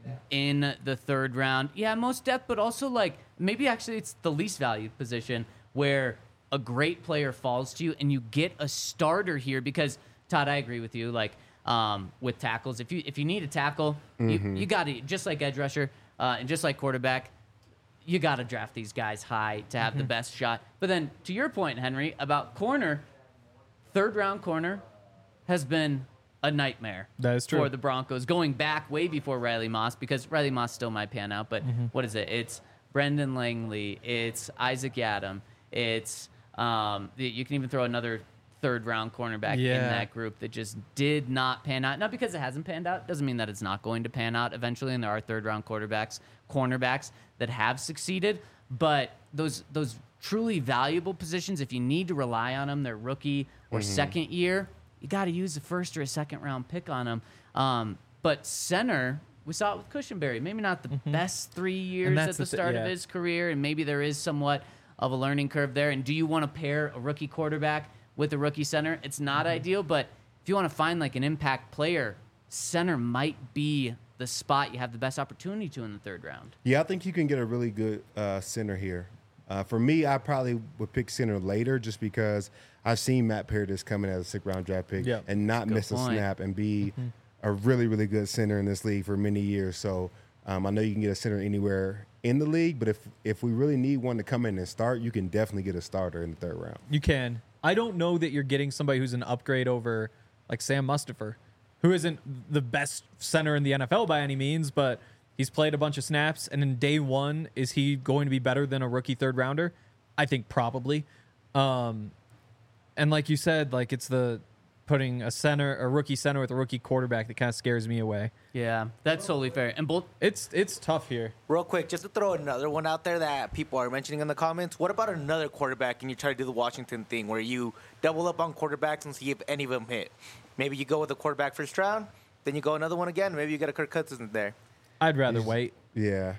S1: in the third round. Yeah, most depth, but also like maybe actually it's the least valued position where a great player falls to you and you get a starter here because Todd, I agree with you. Like um, with tackles, if you if you need a tackle, you, you got to just like edge rusher uh, and just like quarterback, you got to draft these guys high to have the best shot. But then to your point, Henry, about corner, third round corner has been a nightmare.
S3: That is true.
S1: For the Broncos, going back way before Riley Moss, because Riley Moss still might pan out. But what is it? It's Brendan Langley. It's Isaac Yadam. It's um, you can even throw another third round cornerback in
S3: Yeah.
S1: that group that just did not pan out. Not because it hasn't panned out, doesn't mean that it's not going to pan out eventually. And there are third round quarterbacks, cornerbacks that have succeeded. But those those truly valuable positions, if you need to rely on them, their rookie or second year, you got to use a first or a second round pick on them. Um, but center, we saw it with Cushenberry. Maybe not the best three years
S3: that's
S1: at the
S3: the thi-
S1: start
S3: yeah.
S1: of his career, and maybe there is somewhat of a learning curve there. And do you want to pair a rookie quarterback with a rookie center? It's not ideal, but if you want to find like an impact player, center might be the spot you have the best opportunity to in the third round.
S2: Yeah, I think you can get a really good uh, center here. Uh, for me, I probably would pick center later just because I've seen Matt Paradis come in as a sixth round draft pick
S3: Yeah.
S2: and not
S1: Good
S2: miss a
S1: point.
S2: snap and be a really, really good center in this league for many years. So um, I know you can get a center anywhere in the league, but if if we really need one to come in and start, you can definitely get a starter in the third round.
S3: You can. I don't know that you're getting somebody who's an upgrade over like Sam Mustipher, who isn't the best center in the N F L by any means, but he's played a bunch of snaps. And in day one, is he going to be better than a rookie third rounder? I think probably. Um, and like you said, like it's the putting a center, a rookie center with a rookie quarterback that kind of scares me away.
S1: Yeah, that's totally fair. And both
S3: It's it's tough here.
S4: Real quick, just to throw another one out there that people are mentioning in the comments. What about another quarterback and you try to do the Washington thing where you double up on quarterbacks and see if any of them hit? Maybe you go with a quarterback first round, then you go another one again. Maybe you get a Kirk Cousins there.
S3: I'd rather wait.
S2: Yeah.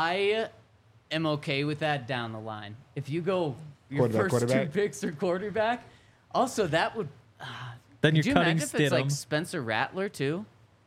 S1: I am okay with that down the line. If you go your
S2: Quarterback,
S1: first
S2: quarterback?
S1: two picks are quarterback, also that would.
S3: Then
S1: Could
S3: you're
S1: you
S3: cutting
S1: imagine if it's like
S3: Stidham.
S1: Spencer Rattler too?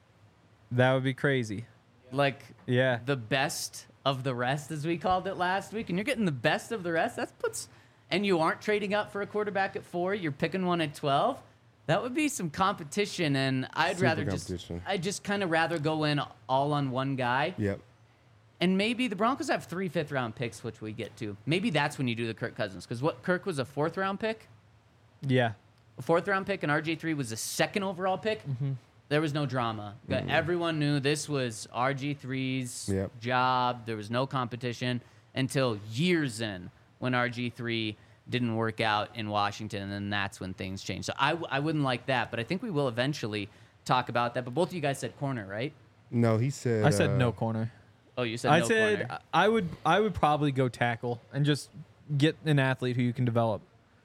S3: That would be crazy.
S1: Like
S3: Yeah.
S1: the best of the rest, as we called it last week, and you're getting the best of the rest. That puts, and you aren't trading up for a quarterback at four. You're picking one at twelve. That would be some competition, and I'd
S2: Super
S1: rather just,
S2: competition.
S1: I just kind of rather go in all on one guy.
S2: Yep.
S1: And maybe the Broncos have three fifth round picks, which we get to. Maybe that's when you do the Kirk Cousins, because what Kirk was a fourth round pick,
S3: Yeah.
S1: a fourth round pick, and R G three was a second overall pick. There was no drama. Everyone knew this was R G three's
S2: Yep.
S1: job. There was no competition until years in when R G three didn't work out in Washington, and then that's when things changed. So I, I wouldn't like that, but I think we will eventually talk about that. But both of you guys said corner, right?
S2: No, he said.
S3: I said
S2: uh,
S3: no corner.
S1: Oh, you said
S3: I
S1: no
S3: said
S1: corner.
S3: I would I would probably go tackle and just get an athlete who you can develop.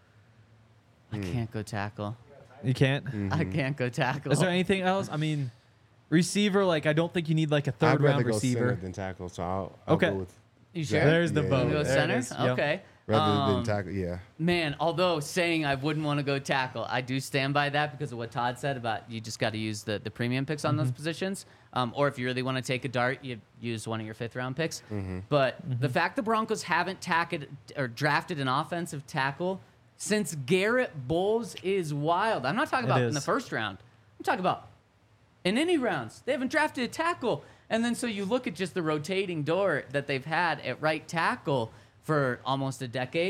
S1: I can't go tackle.
S3: You can't.
S1: I can't go tackle.
S3: Is there anything else? I mean, receiver. Like I don't think you need like a
S2: I'd
S3: third
S2: rather
S3: round
S2: go
S3: receiver.
S2: center than tackle, so I'll, I'll
S3: Okay.
S2: go with
S1: You sure?
S2: Zach.
S3: There's the
S2: Yeah,
S3: vote.
S1: You go
S2: yeah.
S3: There it
S1: center?
S3: is. Yep.
S1: Okay.
S2: Rather
S1: Um,
S2: than tackle, yeah.
S1: Man, although saying I wouldn't want to go tackle, I do stand by that because of what Todd said about you just got to use the, the premium picks on those positions. Um, or if you really want to take a dart, you use one of your fifth round picks. But the fact the Broncos haven't tacked or drafted an offensive tackle since Garrett Bowles is wild. I'm not talking
S3: It
S1: about in the
S3: is.
S1: first round. I'm talking about in any rounds. They haven't drafted a tackle. And then so you look at just the rotating door that they've had at right tackle for almost a decade.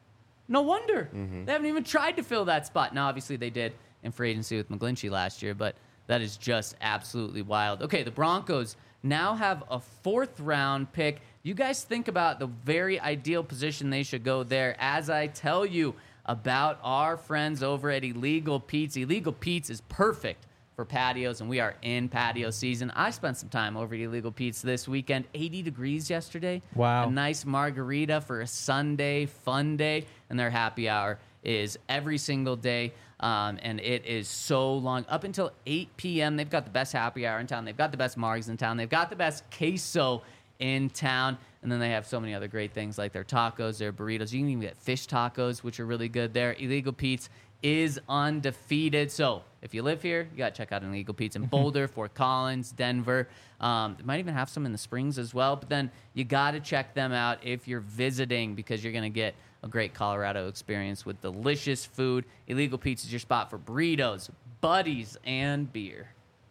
S1: No wonder. They haven't even tried to fill that spot. Now, obviously, they did in free agency with McGlinchey last year, but that is just absolutely wild. Okay, the Broncos now have a fourth round pick. You guys think about the very ideal position they should go there as I tell you about our friends over at Illegal Pete's. Illegal Pete's is perfect for patios, and we are in patio season. I spent some time over at Illegal Pete's this weekend. eighty degrees yesterday.
S3: Wow.
S1: A nice margarita for a Sunday fun day, and their happy hour is every single day, um, and it is so long. Up until eight p.m., they've got the best happy hour in town. They've got the best margs in town. They've got the best queso in town, and then they have so many other great things like their tacos, their burritos. You can even get fish tacos, which are really good there. Illegal Pete's is undefeated. So if you live here, you got to check out Illegal Pete's in Boulder, Fort Collins, Denver. Um, they might even have some in the Springs as well. But then you got to check them out if you're visiting because you're going to get a great Colorado experience with delicious food. Illegal Pete's is your spot for burritos, buddies, and beer.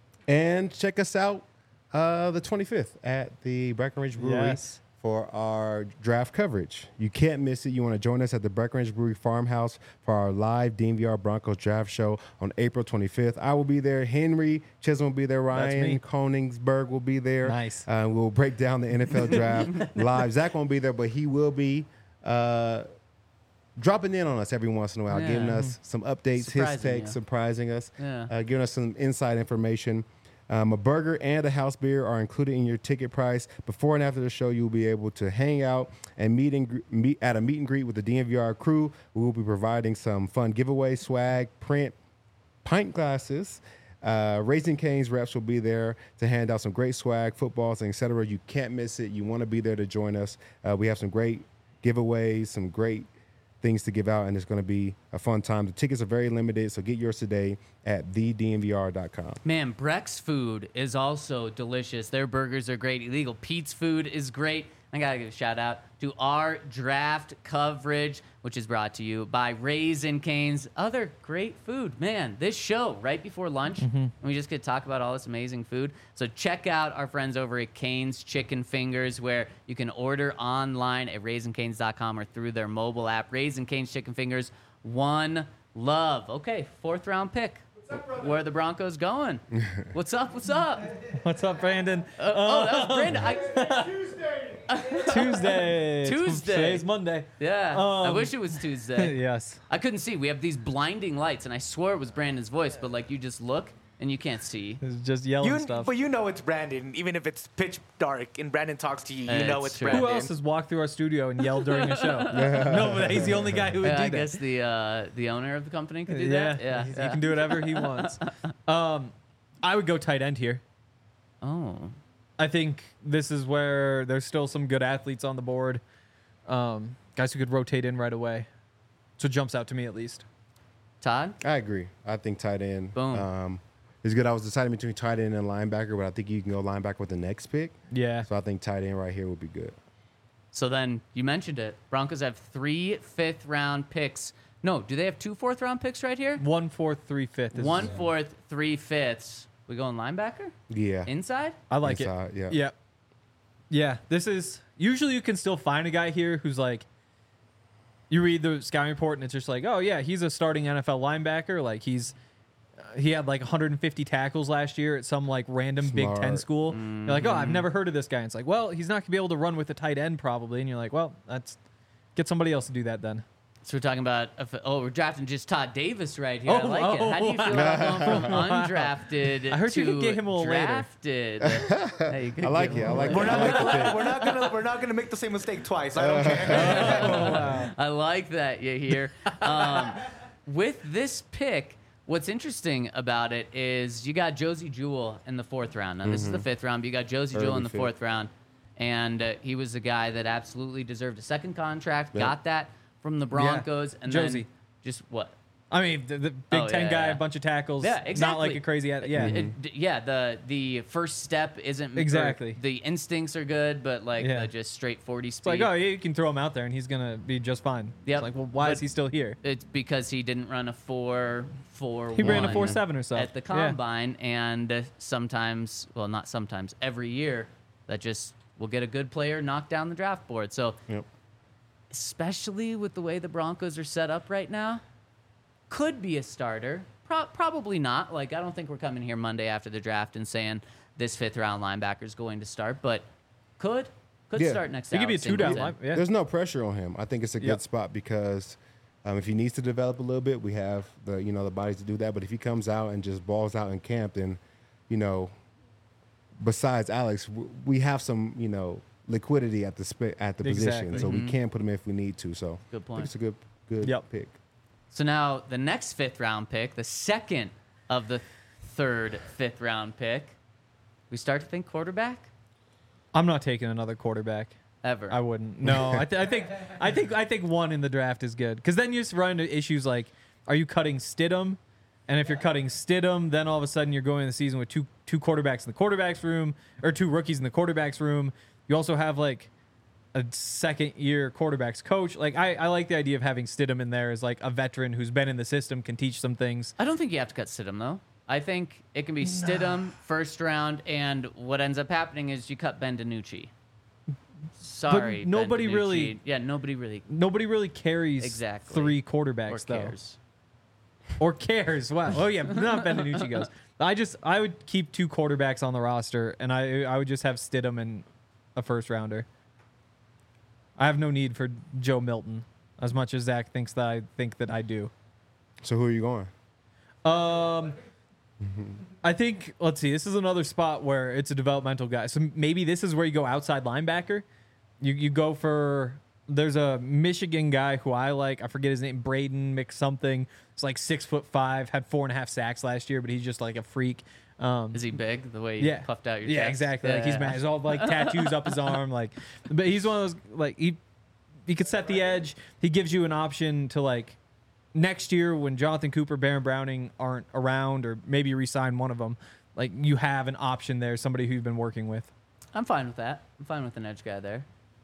S2: And check us out uh, the twenty-fifth at the Breckenridge Brewery
S3: Yes.
S2: for our draft coverage. You can't miss it. You want to join us at the Breckenridge Brewery Farmhouse for our live D M V R Broncos draft show on April twenty-fifth. I will be there. Henry Chisholm will be there.
S3: That's me.
S2: Ryan Koningsberg will be there.
S3: Nice.
S2: Uh, we'll break down the N F L draft live. Zach won't be there, but he will be uh, dropping in on us every once in a while,
S1: Yeah.
S2: giving us some updates, his
S1: Surprising
S2: takes,
S1: you.
S2: surprising us,
S1: Yeah.
S2: uh, giving us some inside information. Um, a burger and a house beer are included in your ticket price. Before and after the show, you'll be able to hang out and meet and gr- meet at a meet and greet with the D M V R crew. We will be providing some fun giveaway swag, print, pint glasses. Uh, Raising Cane's reps will be there to hand out some great swag, footballs, and et cetera. You can't miss it. You want to be there to join us. Uh, we have some great giveaways, some great things to give out, and it's going to be a fun time. The tickets are very limited, so get yours today at the d m v r dot com.
S1: Man, Breck's food is also delicious. Their burgers are great. Illegal Pete's food is great. I got to give a shout out to our draft coverage, which is brought to you by Raisin Cane's. Other great food. Man, this show right before lunch, and we just get to talk about all this amazing food. So check out our friends over at Cane's Chicken Fingers, where you can order online at raisin canes dot com or through their mobile app. Raisin Cane's Chicken Fingers, one love. Okay, fourth round pick. Where are the Broncos going? What's up? What's up?
S3: What's up, Brandon?
S1: Uh, oh, that was Brandon. I,
S3: Tuesday. It's-
S1: Tuesday.
S3: Today's Monday.
S1: yeah, I
S3: Um,
S1: wish it was Tuesday.
S3: Yes.
S1: I couldn't see. We have these blinding lights, and I swore it was Brandon's voice, but like you just look and you can't see.
S3: It's just yelling
S4: You,
S3: stuff.
S4: but you know it's Brandon, even if it's pitch dark and Brandon talks to you. You
S1: Uh,
S4: know
S1: it's
S4: it's
S1: true.
S4: Brandon.
S3: Who else has walked through our studio and yelled during a show? No, but he's the only guy who would
S1: Yeah,
S3: do
S1: I
S3: that.
S1: guess the uh, the owner of the company could do
S3: yeah,
S1: that. Yeah,
S3: he,
S1: yeah.
S3: he can do whatever he wants. Um, I would go tight end here.
S1: Oh,
S3: I think this is where there's still some good athletes on the board. Um, guys who could rotate in right away. So it jumps out to me at least.
S1: Todd.
S2: I agree. I think tight end
S1: Boom.
S2: um, is good. I was deciding between tight end and linebacker, but I think you can go linebacker with the next pick.
S3: Yeah.
S2: So I think tight end right here would be good.
S1: So then you mentioned it. Broncos have three fifth round picks. No, do they have two fourth round picks right here?
S3: One fourth, three fifth. Is,
S1: One fourth, three fifths. We going linebacker?
S2: Yeah.
S1: Inside?
S3: I like
S2: Inside,
S3: it.
S2: yeah.
S3: Yeah. Yeah. This is usually you can still find a guy here who's like, you read the scouting report and it's just like, oh yeah, he's a starting N F L linebacker. Like he's, uh, he had like one hundred fifty tackles last year at some like random Big Ten
S2: Smart.
S3: school. You're like, oh, I've never heard of this guy. And it's like, well, he's not gonna be able to run with a tight end probably. And you're like, well, that's get somebody else to do that then.
S1: So we're talking about, oh, we're drafting just Todd Davis right here. I
S3: Oh,
S1: like it. How do you feel
S3: oh,
S1: about going from undrafted
S3: I heard
S1: to
S3: you could get him a little later.
S1: drafted? Hey, you could
S2: I like
S1: get
S2: it.
S1: him
S2: I
S1: a
S2: like
S1: little
S2: it.
S4: We're not,
S2: I like the
S4: gonna,
S2: pick.
S4: we're not gonna we're not gonna make the same mistake twice. I don't care.
S3: Oh, wow.
S1: I like that you hear. Um, with this pick, what's interesting about it is you got Josie Jewell in the fourth round. Now, this is the fifth round, but you got Josie Jewell
S2: Early
S1: in the
S2: fifth.
S1: fourth round. And uh, he was a guy that absolutely deserved a second contract,
S2: Yep.
S1: got that from the Broncos. And
S3: Josie.
S1: then just what?
S3: I mean, the, the Big
S1: Oh,
S3: Ten
S1: yeah,
S3: guy,
S1: yeah.
S3: a bunch of tackles.
S1: Yeah, exactly.
S3: Not like a crazy, at- yeah.
S1: It- d- yeah, the the first step isn't or
S3: Exactly.
S1: the instincts are good, but like
S3: Yeah.
S1: the just straight forty
S3: It's
S1: speed.
S3: like, oh, yeah, you can throw him out there and he's gonna be just fine.
S1: Yep.
S3: It's like, well, why
S1: But-
S3: is he still here?
S1: It's because he didn't run a four four.
S3: He ran a four seven or so.
S1: at the
S3: Yeah.
S1: combine, and uh, sometimes, well, not sometimes, every year, that just will get a good player knocked down the draft board. So,
S2: Yep.
S1: especially with the way the Broncos are set up right now, could be a starter. Pro- probably not. Like, I don't think we're coming here Monday after the draft and saying this fifth round linebacker is going to start, but could could
S2: Yeah.
S1: start next.
S3: He could be a
S1: Alex
S3: two down
S1: Singleton.
S3: line. Yeah.
S2: There's no pressure on him. I think it's a good
S3: Yep.
S2: spot because um, if he needs to develop a little bit, we have the you know the bodies to do that. But if he comes out and just balls out in camp, then you know, besides Alex, w- we have some you know liquidity at the sp- at the
S3: Exactly.
S2: position, so we can put him if we need to. So
S1: Good
S2: I think
S1: point.
S2: it's a good good
S3: Yep.
S2: pick.
S1: So now the next fifth round pick, the second of the third fifth round pick, we start to think quarterback
S3: I'm not taking another quarterback.
S1: ever.
S3: I wouldn't. No, I, th- I think I think I think one in the draft is good because then you just run into issues like, are you cutting Stidham? And if you're cutting Stidham, then all of a sudden you're going into the season with two two quarterbacks in the quarterbacks room or two rookies in the quarterbacks room. You also have like a second year quarterbacks coach. Like I, I like the idea of having Stidham in there as like a veteran who's been in the system, can teach some things.
S1: I don't think you have to cut Stidham though. I think it can be Stidham first round, and what ends up happening is you cut Ben DiNucci. Sorry, Ben
S3: nobody
S1: DiNucci.
S3: really-
S1: yeah, nobody really
S3: Nobody really carries
S1: Exactly.
S3: three
S1: or
S3: quarterbacks though.
S1: cares.
S3: Or cares. Wow. Oh yeah, not Ben DiNucci goes. I just I would keep two quarterbacks on the roster, and I I would just have Stidham and a first rounder. I have no need for Joe Milton, as much as Zach thinks that I think that I do.
S2: So who are you going?
S3: Um, I think let's see. This is another spot where it's a developmental guy. So maybe this is where you go outside linebacker. You you go for. There's a Michigan guy who I like. I forget his name. Braden McSomething. It's like six foot five. Had four and a half sacks last year, but he's just like a freak. Um,
S1: Is he big? The way you
S3: yeah,
S1: puffed out your
S3: yeah,
S1: chest?
S3: exactly. Like he's
S1: Yeah.
S3: mad. He's all like tattoos up his arm. Like, but he's one of those like he he could set the edge. He gives you an option to like next year when Jonathan Cooper, Baron Browning aren't around, or maybe resign one of them. Like you have an option there, somebody who you've been working with.
S1: I'm fine with that. I'm fine with an edge guy there.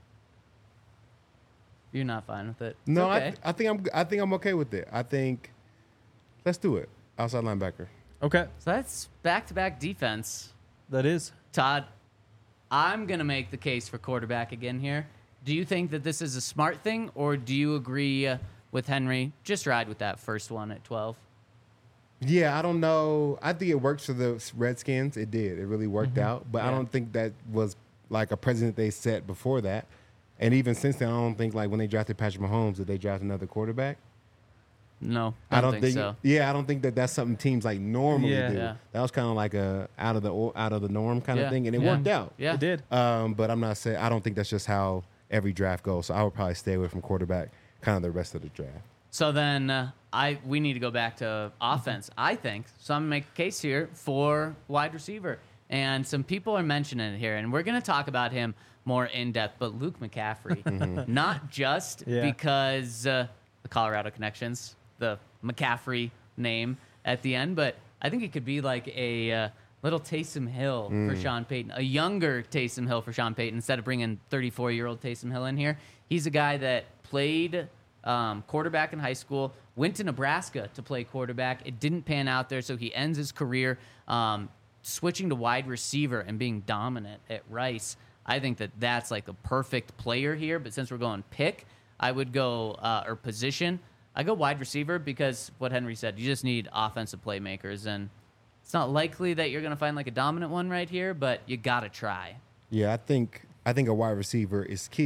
S1: You're not fine with it. It's
S2: No,
S1: okay.
S2: I, I think I'm I think I'm okay with it. I think let's do it. Outside linebacker.
S3: Okay,
S1: So that's back-to-back defense.
S3: that is.
S1: Todd, I'm going to make the case for quarterback again here. Do you think that this is a smart thing, or do you agree uh, with Henry? Just ride with that first one at twelve.
S2: Yeah, I don't know. I think it works for the Redskins. It did. It really worked out. But I
S1: Yeah.
S2: don't think that was like a precedent they set before that. And even since then, I don't think like when they drafted Patrick Mahomes, did they draft another quarterback?
S1: No,
S2: I don't
S1: think, so.
S2: Yeah, I don't think that that's something teams like normally
S3: Yeah.
S2: do.
S1: Yeah.
S2: That was kind of like a out of the or- out of the norm kind
S1: Yeah.
S2: of thing, and it
S1: Yeah.
S2: worked out.
S1: Yeah.
S3: It did.
S2: Um, but I'm not saying I don't think that's just how every draft goes. So I would probably stay away from quarterback kind of the rest of the draft.
S1: So then uh, I we need to go back to offense, I think. So I'm going to make a case here for wide receiver. And some people are mentioning it here, and we're going to talk about him more in depth. But Luke McCaffrey, not just
S3: Yeah.
S1: because uh, the Colorado connections, the McCaffrey name at the end, but I think it could be like a uh, little Taysom Hill for Sean Payton, a younger Taysom Hill for Sean Payton instead of bringing thirty-four-year-old Taysom Hill in here. He's a guy that played um, quarterback in high school, went to Nebraska to play quarterback. It didn't pan out there, so he ends his career um, switching to wide receiver and being dominant at Rice. I think that that's like the perfect player here, but since we're going pick, I would go, uh, or position, I go wide receiver because what Henry said, you just need offensive playmakers, and it's not likely that you're going to find like a dominant one right here, but you got to try.
S2: Yeah, I think I think a wide receiver is key.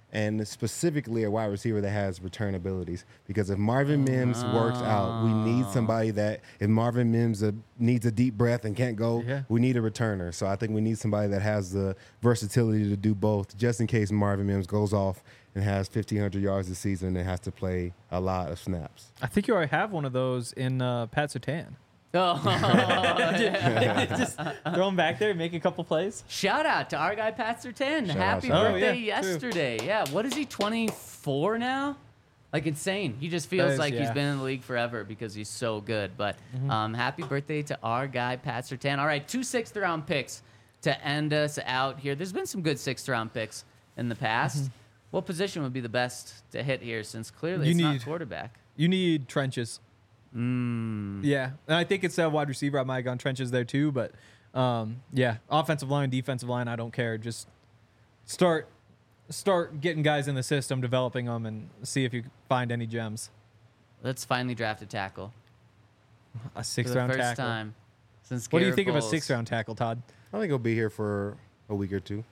S2: and specifically a wide receiver that has return abilities. Because if Marvin Mims works out, we need somebody that, if Marvin Mims uh, needs a deep breath and can't go,
S3: Yeah.
S2: we need a returner. So I think we need somebody that has the versatility to do both, just in case Marvin Mims goes off and has fifteen hundred yards this season and has to play a lot of snaps.
S3: I think you already have one of those in uh, Pat Surtain.
S1: Oh,
S3: Just throw him back there, make a couple plays.
S1: shout out to our guy Pat Surtain.
S2: Shout
S1: Happy
S2: out, shout
S3: out.
S1: birthday
S3: Oh, yeah, true.
S1: yesterday. Yeah, what is he, twenty-four now? Like insane. He just feels
S3: is-
S1: like he's
S3: yeah.
S1: been in the league forever because he's so good. But um, happy birthday to our guy Pat Surtain. All right, two sixth round picks to end us out here. There's been some good sixth round picks in the past. What position would be the best to hit here since clearly
S3: You
S1: it's not
S3: need-
S1: quarterback?
S3: You need trenches.
S1: Mm.
S3: Yeah, and I think it's a wide receiver. I might have gone trenches there too, but um, yeah, offensive line, defensive line, I don't care. Just start start getting guys in the system, developing them, and see if you can find any gems.
S1: Let's finally draft a tackle.
S3: A
S1: For
S3: sixth
S1: the
S3: round
S1: first
S3: tackle.
S1: time since
S3: What do you
S1: Garrett
S3: think of a
S1: Bowles.
S3: sixth round tackle, Todd?
S2: I think he'll be here for a week or two.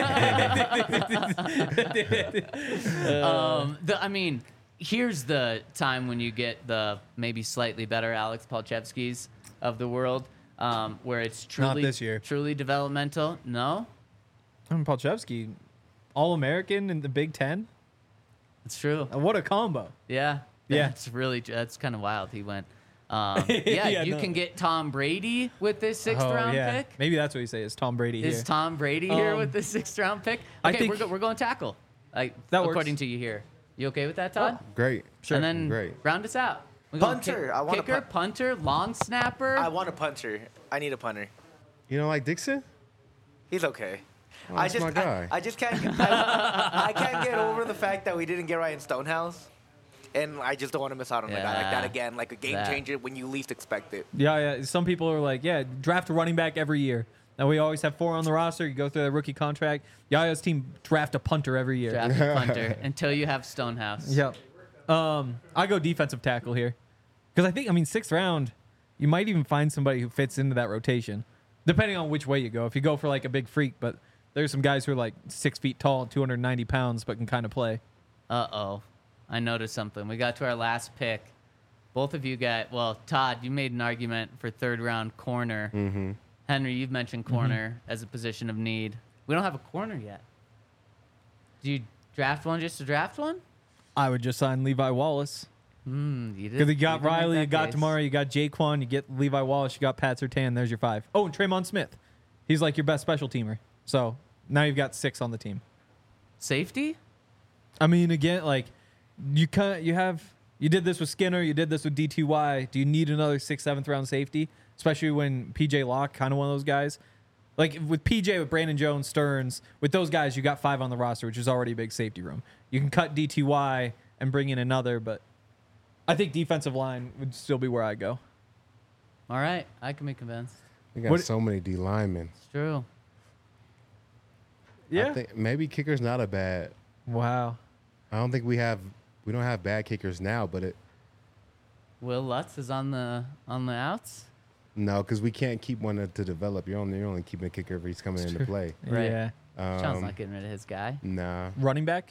S1: Um, the, I mean, here's the time when you get the maybe slightly better Alex Palchevskis of the world, um, where it's truly
S3: this year.
S1: truly developmental. No,
S3: I mean, Palchevsky, All American in the Big Ten.
S1: it's true.
S3: Uh, What a combo!
S1: Yeah,
S3: Yeah.
S1: That's really that's kind of wild. He went. Um, yeah,
S3: Yeah,
S1: you
S3: no.
S1: can get Tom Brady with this sixth
S3: Oh,
S1: round
S3: yeah.
S1: pick.
S3: Maybe that's what you say is Tom Brady
S1: Is
S3: here.
S1: Tom Brady here
S3: Um,
S1: with the sixth round pick?
S3: I
S1: Okay,
S3: think-
S1: we're, go, we're going tackle. Like
S3: That works.
S1: according to you here. You okay with that, Todd?
S2: Great.
S3: Sure.
S1: And then
S2: Great.
S1: round us out. We going
S4: Punter.
S1: kick-
S4: I want a
S1: kicker,
S4: punt-
S1: punter, long snapper.
S4: I want a punter. I need a punter.
S2: You don't like Dixon?
S4: He's okay.
S2: Oh,
S4: I
S2: that's
S4: just
S2: my guy.
S4: I, I just can't get, I, I can't get over the fact that we didn't get Ryan Stonehouse, and I just don't want to miss out on a guy like that
S1: Yeah.
S4: again, like a game
S1: That.
S4: changer when you least expect it.
S3: Yeah, yeah. Some people are like, yeah, draft a running back every year. Now we always have four on the roster. You go through the rookie contract. Yaya's team draft a punter every year.
S1: Draft a punter until you have Stonehouse.
S3: Yep. Um, I go defensive tackle here because I think, I mean, sixth round, you might even find somebody who fits into that rotation, depending on which way you go. If you go for like a big freak, but there's some guys who are like six feet tall, two hundred ninety pounds, but can kind of play.
S1: Uh oh. I noticed something. We got to our last pick. Both of you got, well, Todd, you made an argument for third round corner.
S2: Mm-hmm.
S1: Henry, you've mentioned corner as a position of need. We don't have a corner yet. Do you draft one just to draft one?
S3: I would just sign Levi Wallace
S1: Hmm, you did.
S3: because you got
S1: did make
S3: Riley,
S1: that
S3: you got
S1: case.
S3: Tamara, you got Jaquan, you get Levi Wallace, you got Pat Surtain. There's your five. Oh, and Tremont Smith. He's like your best special teamer. So now you've got six on the team.
S1: Safety?
S3: I mean, again, like you kind you have you did this with Skinner, you did this with D T Y. Do you need another sixth, seventh round safety, especially when P J Locke, kind of one of those guys? Like with P J, with Brandon Jones, Stearns, with those guys, you got five on the roster, which is already a big safety room. You can cut D T Y and bring in another, but I think defensive line would still be where I go.
S1: All right. I can be convinced.
S2: We got
S3: What-
S2: so many D linemen.
S1: It's true.
S3: Yeah.
S2: I think maybe kicker's not a bad.
S3: Wow.
S2: I don't think we have. We don't have bad kickers now, but it
S1: Will Lutz is on the on the outs.
S2: no, because we can't keep one to, to develop. You're only you're only keeping a kicker if he's coming into play.
S1: Right.
S3: Yeah.
S1: Sean's
S2: Um,
S1: not getting rid of his guy.
S2: Nah.
S3: Running back,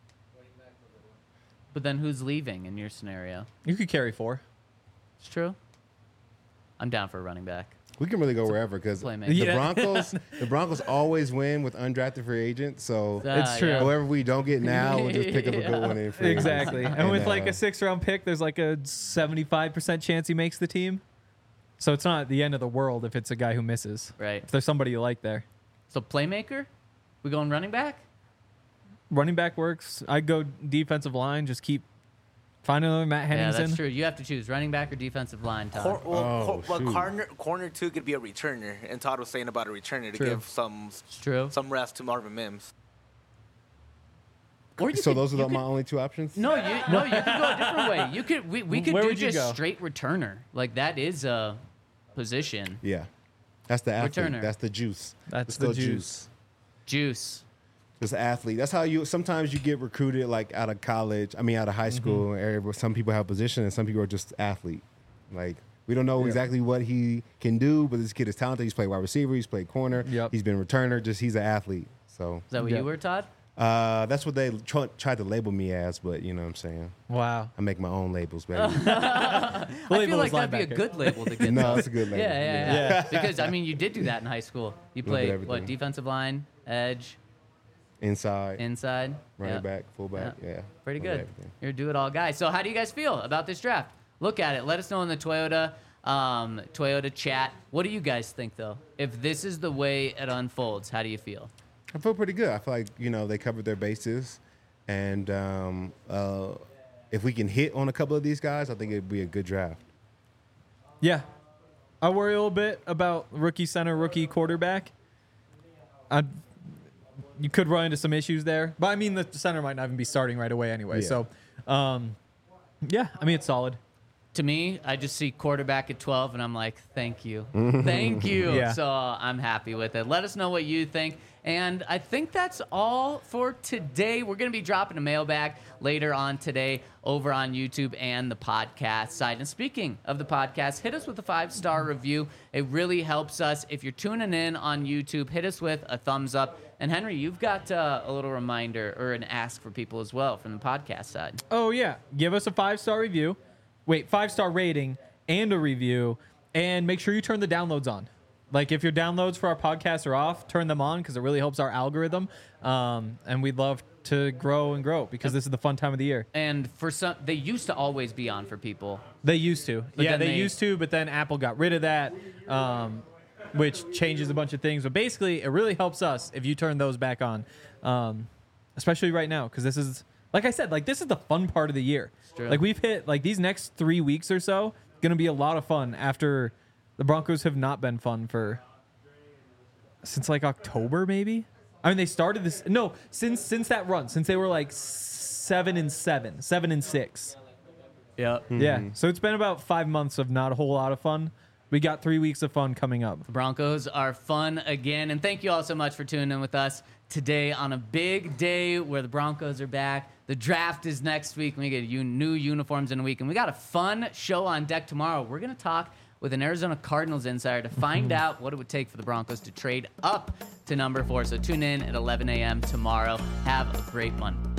S1: But then who's leaving in your scenario?
S3: you could carry four.
S1: It's true. I'm down for a running back.
S2: We can really go wherever because the
S1: playmaker.
S3: Yeah.
S2: Broncos, the Broncos always win with undrafted free agents. So
S1: Ah,
S3: It's true.
S1: yeah.
S2: whoever we don't get now, we'll just pick up a good one in free agency.
S3: Exactly. And with like
S2: uh,
S3: a six round pick, there's like a seventy-five percent chance he makes the team. So it's not the end of the world if it's a guy who misses.
S1: Right.
S3: If there's somebody you like there.
S1: So playmaker? We going running back?
S3: Running back works. I'd go defensive line. Just keep find another Matt
S1: Yeah,
S3: Henningsen.
S1: that's true. You have to choose running back or defensive line, Todd.
S4: Cor- well,
S2: Oh,
S4: cor- well,
S2: shoot.
S4: corner, corner two could be a returner, and Todd was saying about a returner to
S3: True.
S4: give some
S1: It's true.
S4: some rest to Marvin Mims.
S1: Or you
S2: So
S1: could-
S2: those are
S1: you
S2: the, my
S1: could-
S2: only two options.
S1: No, you no, you could go a different way. You could we, we could
S3: Where
S1: do
S3: would you
S1: just
S3: go?
S1: straight returner. Like that is a position.
S2: Yeah, that's the athlete.
S1: Returner.
S2: That's the juice.
S3: That's
S2: It's
S3: the
S2: still
S3: juice.
S1: Juice.
S2: Just athlete. That's how you. Sometimes you get recruited like out of college. I mean, out of high school
S3: Mm-hmm.
S2: area where some people have position and some people are just athlete. Like we don't know
S3: Yeah.
S2: exactly what he can do, but this kid is talented. He's played wide receiver. He's played corner.
S3: Yep.
S2: He's been returner. Just he's an athlete. So
S1: Is that what
S3: Yeah.
S1: you were, Todd?
S2: Uh, that's what they tr- tried to label me as, but you know what I'm saying.
S3: Wow.
S2: I make my own labels, baby.
S1: I feel like that'd be a
S3: linebacker.
S1: good label to get.
S2: No,
S1: though.
S2: it's a good label.
S1: Yeah, yeah, yeah.
S3: Yeah.
S1: Because I mean, you did do that in high school. You
S2: Little bit
S1: played
S2: everything.
S1: what? Defensive line, edge,
S2: Inside,
S1: inside,
S2: running
S1: yeah.
S2: back, fullback.
S1: Yeah.
S2: Yeah.
S1: Pretty
S2: Little
S1: good.
S2: bit everything.
S1: You're a do-it-all guy. So how do you guys feel about this draft? Look at it. Let us know in the Toyota um, Toyota chat. What do you guys think, though? If this is the way it unfolds, how do you feel?
S2: I feel pretty good. I feel like, you know, they covered their bases. And um, uh, if we can hit on a couple of these guys, I think it'd be a good draft.
S3: Yeah. I worry a little bit about rookie center, rookie quarterback. I you could run into some issues there. But I mean the center might not even be starting right away anyway.
S2: Yeah.
S3: So um, yeah, I mean it's solid.
S1: To me, I just see quarterback at twelve, and I'm like, thank you. Thank you.
S3: Yeah.
S1: So uh, I'm happy with it. Let us know what you think. And I think that's all for today. We're going to be dropping a mailbag later on today over on YouTube and the podcast side. And speaking of the podcast, hit us with a five-star review. It really helps us. If you're tuning in on YouTube, hit us with a thumbs up. And Henry, you've got uh, a little reminder or an ask for people as well from the podcast side.
S3: Oh yeah. Give us a five-star review. Wait, five-star rating and a review. And make sure you turn the downloads on. Like, if your downloads for our podcast are off, turn them on because it really helps our algorithm. Um, and we'd love to grow and grow because this is the fun time of the year.
S1: And for some, they used to always be on for people.
S3: They used to.
S1: But
S3: yeah,
S1: then
S3: they,
S1: they-
S3: used to, but then Apple got rid of that, um, which changes a bunch of things. But basically, it really helps us if you turn those back on, um, especially right now because this is, like I said, like this is the fun part of the year.
S1: true.
S3: Like, we've hit, like, these next three weeks or so, going to be a lot of fun after the Broncos have not been fun for since like October, maybe. I mean, they started this no since since that run, since they were like seven and seven, seven and six.
S1: Yep.
S3: Yeah, so it's been about five months of not a whole lot of fun. We got three weeks of fun coming up.
S1: The Broncos are fun again. And thank you all so much for tuning in with us today on a big day where the Broncos are back. The draft is next week. We get u- new uniforms in a week. And we got a fun show on deck tomorrow. We're going to talk with an Arizona Cardinals insider to find out what it would take for the Broncos to trade up to number four. So tune in at eleven a.m. tomorrow. Have a great one.